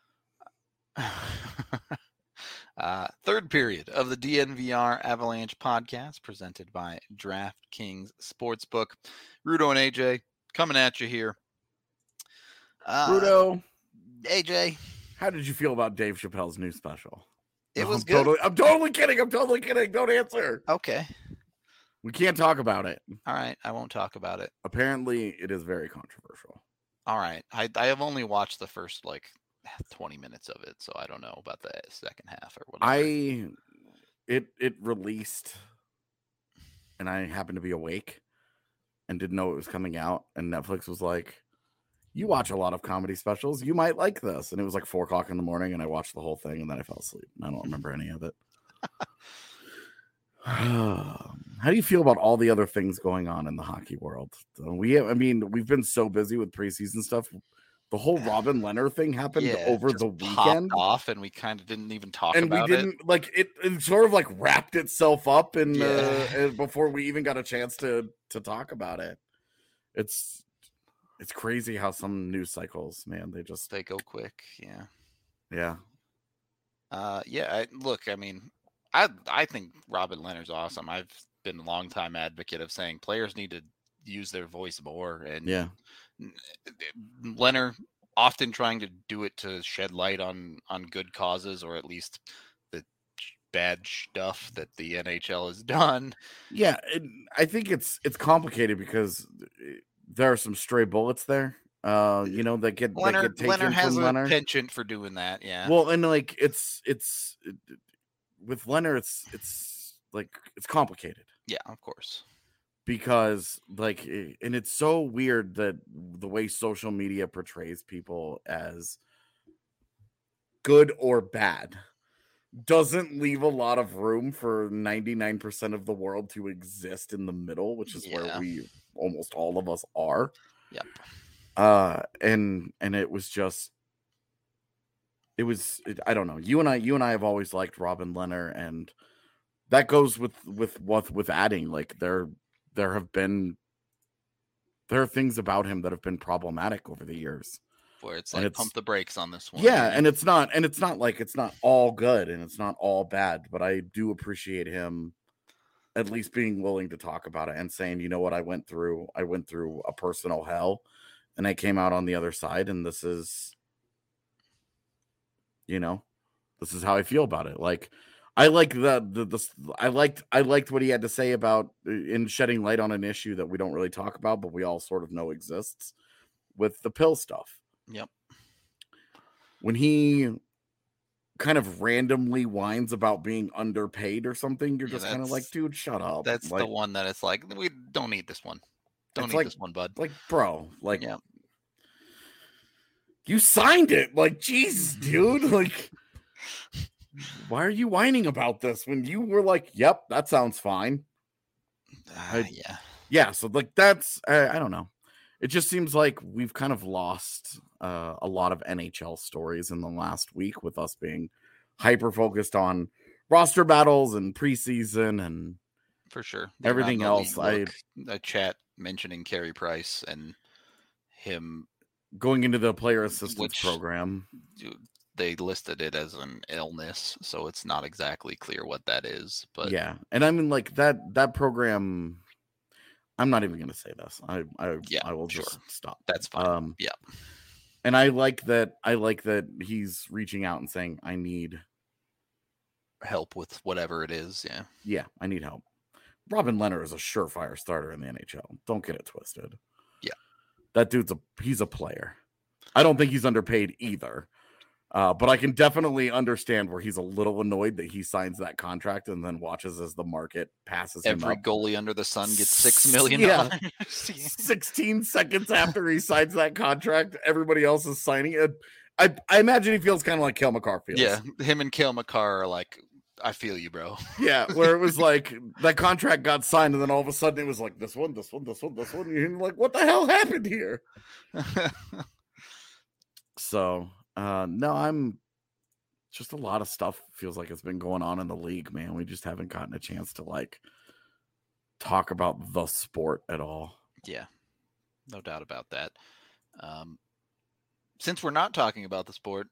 uh, third period of the D N V R Avalanche podcast presented by DraftKings Sportsbook. Rudo and A J coming at you here. Uh, Rudo, A J, how did you feel about Dave Chappelle's new special? It no, was I'm good. Totally, I'm totally kidding. I'm totally kidding. Don't answer. Okay. We can't talk about it. All right. I won't talk about it. Apparently, it is very controversial. All right. I, I have only watched the first like twenty minutes of it, so I don't know about the second half or whatever. I it it released, and I happened to be awake and didn't know it was coming out, and Netflix was like, "You watch a lot of comedy specials. You might like this." And it was like four o'clock in the morning, and I watched the whole thing, and then I fell asleep. I don't remember any of it. How do you feel about all the other things going on in the hockey world? We, I mean, we've been so busy with preseason stuff. The whole Robin Lehner thing happened yeah, over the weekend, off, and we kind of didn't even talk and about we didn't it. like it. It sort of like wrapped itself up, and yeah. uh, before we even got a chance to to talk about it, it's it's crazy how some news cycles, man, they just they go quick. Yeah, yeah, uh, yeah. I, look, I mean. I I think Robin Lehner's awesome. I've been a longtime advocate of saying players need to use their voice more. And yeah, Lehner often trying to do it to shed light on on good causes, or at least the bad stuff that the N H L has done. Yeah, it, I think it's it's complicated because there are some stray bullets there. Uh, you know, that get Lehner, that get taken Lehner has from a Lehner. penchant for doing that. Yeah. Well, and like it's it's. It, with Lehner, it's it's like it's complicated. Yeah, of course. Because like, and it's so weird that the way social media portrays people as good or bad doesn't leave a lot of room for ninety-nine percent of the world to exist in the middle, which is yeah. where we almost all of us are. Yep. Uh, and and it was just. It was, it, I don't know. You and I, you and I have always liked Robin Lehner, and that goes with with with with adding. Like there, there have been there are things about him that have been problematic over the years. where it's And like it's- pump the brakes on this one. Yeah, you know? and it's not and it's not like it's not all good and it's not all bad, but I do appreciate him at least being willing to talk about it and saying, you know what, I went through I went through a personal hell and I came out on the other side, and this is, you know, this is how I feel about it. Like, I like the, the the I liked I liked what he had to say about in shedding light on an issue that we don't really talk about, but we all sort of know exists with the pill stuff. Yep. When he kind of randomly whines about being underpaid or something, you're Yeah, just kind of like, that's- dude, shut up. That's like, the one that it's like, we don't need this one. Don't It's need like- this one, bud. like, bro, like, Yeah. you signed it. Like, Jesus, dude. Like, why are you whining about this when you were like, yep, that sounds fine? Ah, I- yeah. Yeah, so like that's I, I don't know. It just seems like we've kind of lost uh, a lot of N H L stories in the last week with us being hyper focused on roster battles and preseason and For sure. Everything Around the else, league, look, a chat mentioning Carey Price and him. going into the player assistance Which- program. They listed it as an illness, so it's not exactly clear what that is. But Yeah, and I mean like that that program. I'm not even going to say this. I I Yeah, I will sure. just stop. that's fine. Um, Yeah. and I like that. I like that he's reaching out and saying, "I need, Help with whatever it is. Yeah. yeah, I need help." Robin Leonard is a surefire starter in the N H L. Don't get it twisted. Yeah. That dude's a he's a player. I don't think he's underpaid either. Uh, but I can definitely understand where he's a little annoyed that he signs that contract and then watches as the market passes him Every up. goalie under the sun gets six million Yeah. dollars. sixteen seconds after he signs that contract, everybody else is signing it. I, I imagine he feels kind of like Cale Makar feels. Yeah, him and Cale Makar are like, I feel you, bro. Yeah, where it was like that contract got signed, and then all of a sudden it was like this one, this one, this one, this one. And you're like, what the hell happened here? So, uh, no, I'm just a lot of stuff feels like it's been going on in the league, man. We just haven't gotten a chance to like talk about the sport at all. Yeah, no doubt about that. Um, since we're not talking about the sport,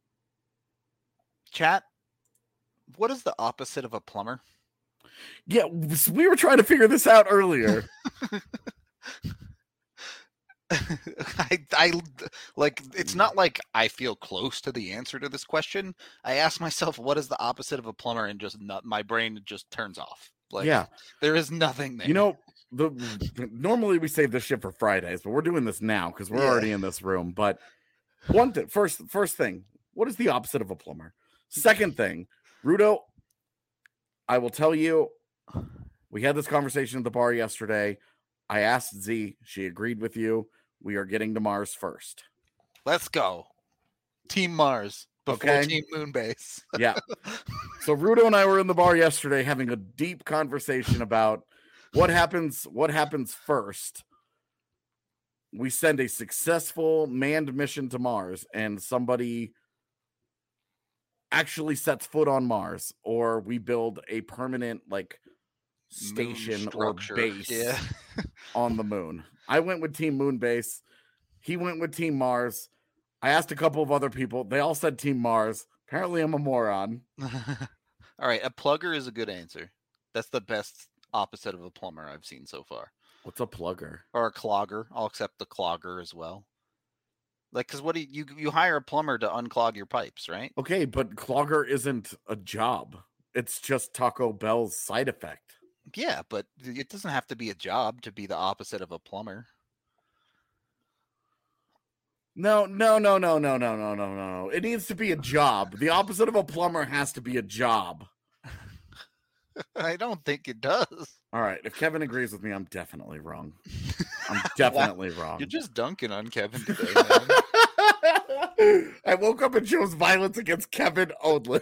chat, what is the opposite of a plumber? Yeah, we were trying to figure this out earlier. I, I like it's not like I feel close to the answer to this question. I ask myself, what is the opposite of a plumber, and just not, my brain just turns off. Like, Yeah. there is nothing there. You know, the normally we save this shit for Fridays, but we're doing this now because we're Yeah. already in this room. But one thing, first, first thing, what is the opposite of a plumber? Second thing, Rudo, I will tell you, we had this conversation at the bar yesterday. I asked Z, she agreed with you. We are getting to Mars first. let's go, Team Mars before Okay. Team Moonbase. Yeah. So Rudo and I were in the bar yesterday having a deep conversation about what happens, what happens first. We send a successful manned mission to Mars and somebody actually sets foot on Mars, or we build a permanent like Moon station or structure. base Yeah. on the moon. I went with Team Moonbase. He went with Team Mars. I asked a couple of other people. They all said Team Mars. Apparently, I'm a moron. All right, a plugger is a good answer. That's the best opposite of a plumber I've seen so far. What's a plugger? Or a clogger. I'll accept the clogger as well. Like, because what do you, you you hire a plumber to unclog your pipes, right? Okay, but clogger isn't a job. It's just Taco Bell's side effect. Yeah, but it doesn't have to be a job to be the opposite of a plumber. No, no, no, no, no, no, no, no, no. It needs to be a job. The opposite of a plumber has to be a job. I don't think it does. All right. If Kevin agrees with me, I'm definitely wrong. I'm definitely wrong. You're just dunking on Kevin today, man. I woke up and chose violence against Kevin only.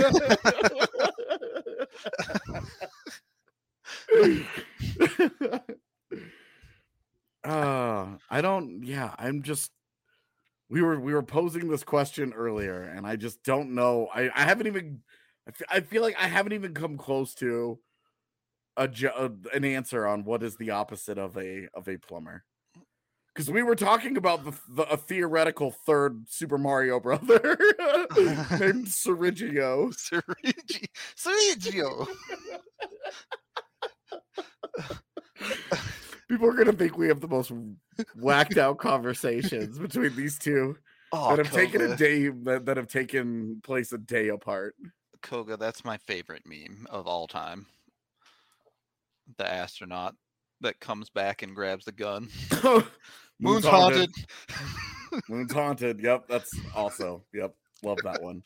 uh, I don't. Yeah, I'm just. We were we were posing this question earlier, and I just don't know. I I haven't even. I fe- I feel like I haven't even come close to a jo- an answer on what is the opposite of a of a plumber. Because we were talking about the, the a theoretical third Super Mario brother named Sergio. Sergio. Sergio. People are gonna think we have the most whacked out conversations between these two Oh, that have Koga. taken a day that, that have taken place a day apart. Koga, that's my favorite meme of all time. The astronaut that comes back and grabs the gun. Moon's haunted. Moon's haunted. Yep, that's also. Yep, love that one.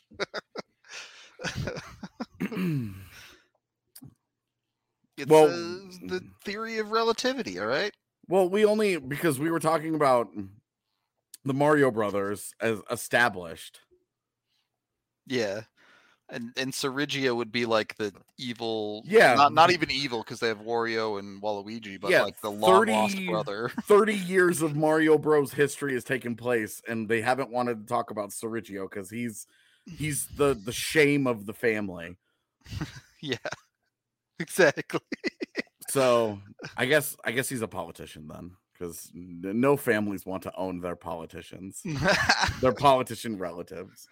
It's Well, uh, the theory of relativity, all right? Well, we only because we were talking about the Mario Brothers as established. Yeah. And and Sergio would be like the evil, Yeah. not not even evil because they have Wario and Waluigi, but Yeah, like the long thirty lost brother. thirty years of Mario Bros history has taken place, and they haven't wanted to talk about Sergio because he's he's the the shame of the family. Yeah. Exactly. So I guess I guess he's a politician then, because no families want to own their politicians, their politician relatives.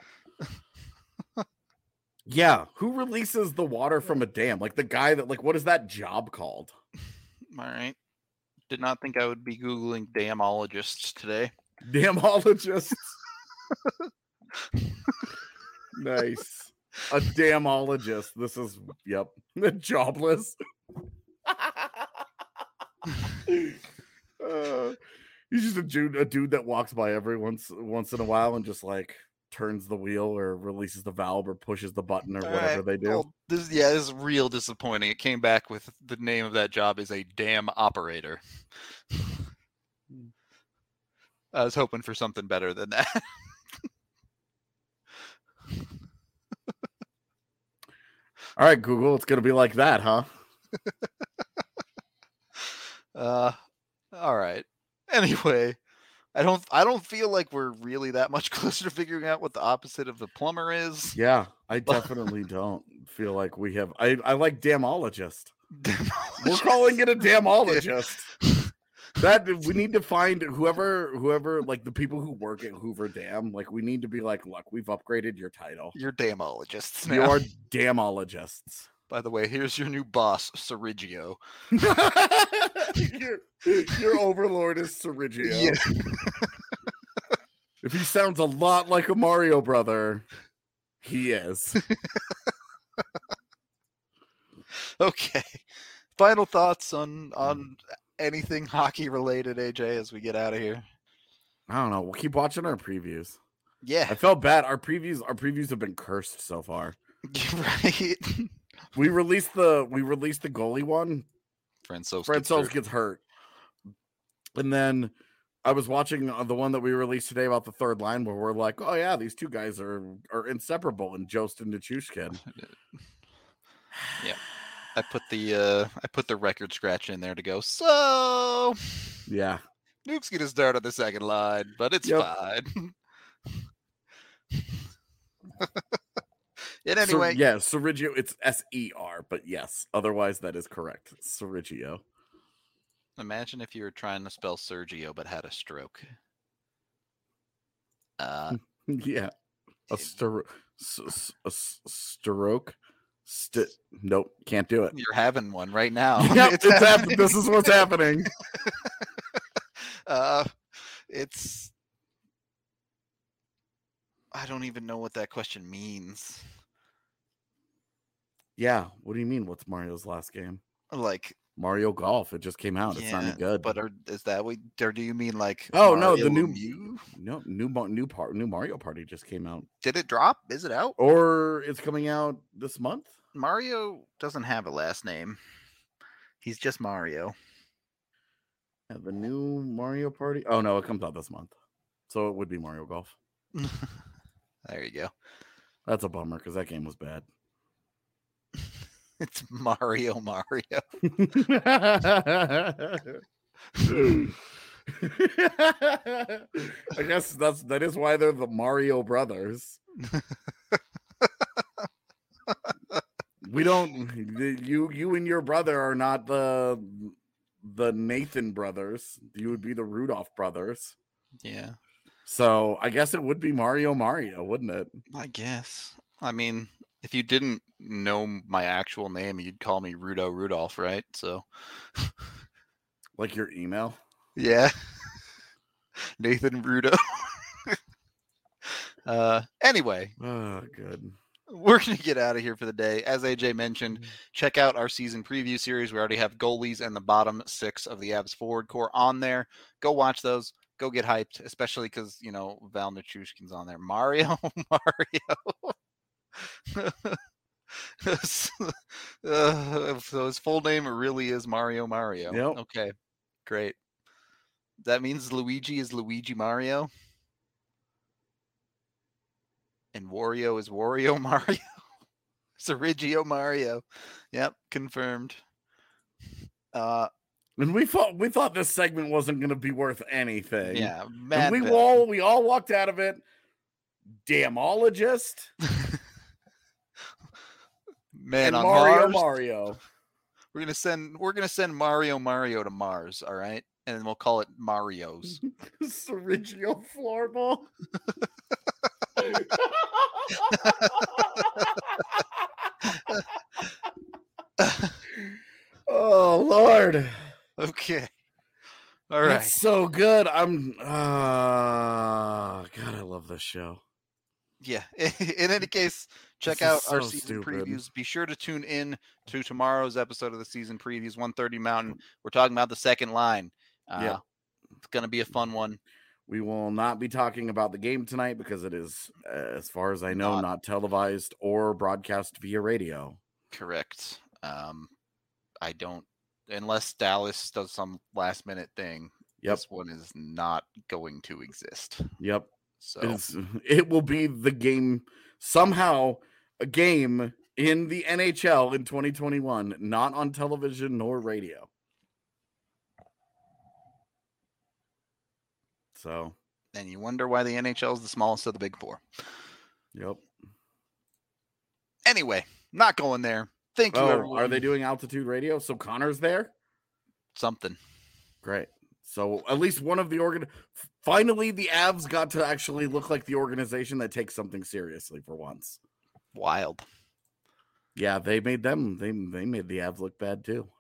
Yeah, who releases the water from a dam? Like the guy that, like, what is that job called? All right. Did not think I would be Googling damologists today. Damologists. Nice. A damologist. This is, yep, jobless. uh, he's just a dude, a dude that walks by every once once in a while and just like turns the wheel or releases the valve or pushes the button or All whatever right, they do. well, this, yeah, this is real disappointing. It came back with the name of that job is a dam operator. I was hoping for something better than that. All right, Google, it's gonna be like that, huh? uh, all right. Anyway, I don't. I don't feel like we're really that much closer to figuring out what the opposite of the plumber is. Yeah, I definitely don't feel like we have. I I like damologist. We're calling it a damologist. That we need to find whoever whoever like the people who work at Hoover Dam. Like we need to be like, look, we've upgraded your title. You're damologists now. You are damologists. By the way, here's your new boss, Sergio. your, your overlord is Sergio. Yeah. If he sounds a lot like a Mario brother, he is. Okay. Final thoughts on on anything hockey related, A J, as we get out of here. I don't know. We'll keep watching our previews. Yeah. I felt bad. Our previews, our previews have been cursed so far. Right. We released the we released the goalie one. Francouz Francouz gets, gets hurt. And then I was watching the one that we released today about the third line where we're like, oh yeah, these two guys are are inseparable in Jost and Nichushkin. Yeah. I put the uh I put the record scratch in there to go, so yeah. Nuke's gonna start on the second line, but it's yep. fine. And anyway, Ser- yeah, Sergio, it's S E R, but yes, otherwise that is correct. Sergio. Imagine if you were trying to spell Sergio but had a stroke. Uh, yeah, a, stir- a stroke. St- nope, can't do it. You're having one right now. Yep, it's it's happening. This is what's happening. Uh, it's. I don't even know what that question means. Yeah, what do you mean? What's Mario's last game? Like Mario Golf. It just came out. Yeah, it's not any good. But are, is that what? Or do you mean like? Oh Mario no, the new Mew? no new new part new Mario Party just came out. Did it drop? Is it out? Or it's coming out this month? Mario doesn't have a last name. He's just Mario. Yeah, the new Mario Party. Oh no, it comes out this month, so it would be Mario Golf. There you go. That's a bummer because that game was bad. It's Mario Mario. I guess that's that is why they're the Mario Brothers. We don't you you and your brother are not the the Nathan brothers. You would be the Rudolph brothers. Yeah. So I guess it would be Mario Mario, wouldn't it? I guess. I mean, if you didn't know my actual name, you'd call me Rudo Rudolph, right? So, like your email. Yeah, Nathan Rudo. uh, anyway, oh, good. We're gonna get out of here for the day. As A J mentioned, check out our season preview series. We already have goalies and the bottom six of the Avs forward core on there. Go watch those. Go get hyped, especially because, you know, Val Nichushkin's on there. Mario, Mario. uh, so his full name really is Mario Mario. Yep. Okay, great. That means Luigi is Luigi Mario. And Wario is Wario Mario. Sergio Mario. Yep, confirmed. Uh, And we thought we thought this segment wasn't going to be worth anything. Yeah, and we all we all walked out of it. Damologist. Man, and on Mario Mars, Mario. We're gonna send we're gonna send Mario Mario to Mars. All right, and then we'll call it Mario's. Sergio Floorball. Oh Lord. Okay. All right. That's so good. I'm uh God, I love this show. Yeah. In any case, check This out is our so season stupid. previews. Be sure to tune in to tomorrow's episode of the season previews, one thirty Mountain. We're talking about the second line. Uh, Yeah. It's going to be a fun one. We will not be talking about the game tonight because it is, uh, as far as I know, Not- not televised or broadcast via radio. Correct. Um, I don't, unless Dallas does some last minute thing, Yep. this one is not going to exist. Yep. So, It's, it will be the game, somehow a game in the N H L in twenty twenty-one, not on television nor radio. So, and you wonder why the N H L is the smallest of the big four. yep. Anyway, not going there. Thank you, Oh, everyone. are they doing altitude radio? So Connor's there? Something. Great. So at least one of the organ. Finally, the Avs got to actually look like the organization that takes something seriously for once. Wild. Yeah, they made them. They they made the Avs look bad too.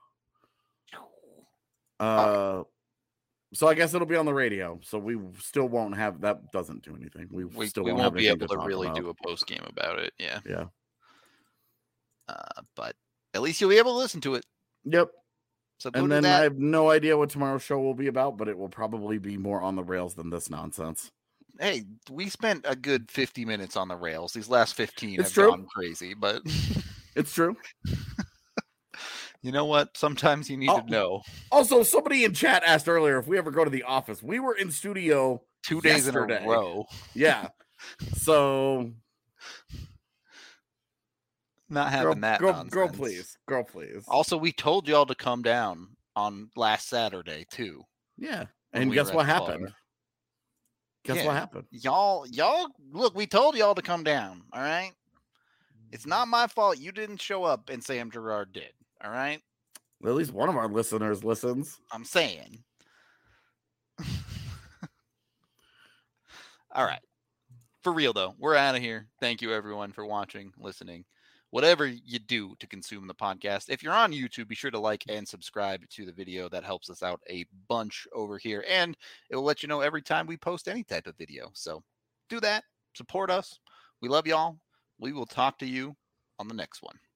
Uh, so I guess it'll be on the radio. So we still won't have that. Doesn't do anything. We, We, still we won't, won't have be anything able to, talk really about. do a post game about it. Yeah. Yeah. Uh, but at least you'll be able to listen to it. Yep. So go And do then that. I have no idea what tomorrow's show will be about, but it will probably be more on the rails than this nonsense. Hey, we spent a good fifty minutes on the rails. These last fifteen It's have true. gone crazy, but It's true. you know what? Sometimes you need Oh. to know. Also, somebody in chat asked earlier if we ever go to the office. We were in studio Two days yesterday. in a row. Yeah. So Not girl, having that girl, nonsense. girl, please, girl, please. Also, we told y'all to come down on last Saturday too. Yeah. when And we guess were at what the happened? bar. Guess Yeah. what happened? Y'all, y'all, look, we told y'all to come down. All right. It's not my fault you didn't show up and Sam Gerard did. All right. Well, at least one of our listeners listens. I'm saying. All right. For real, though, we're out of here. Thank you, everyone, for watching, listening, whatever you do to consume the podcast. If you're on YouTube, be sure to like and subscribe to the video. That helps us out a bunch over here. And it will let you know every time we post any type of video. So do that. Support us. We love y'all. We will talk to you on the next one.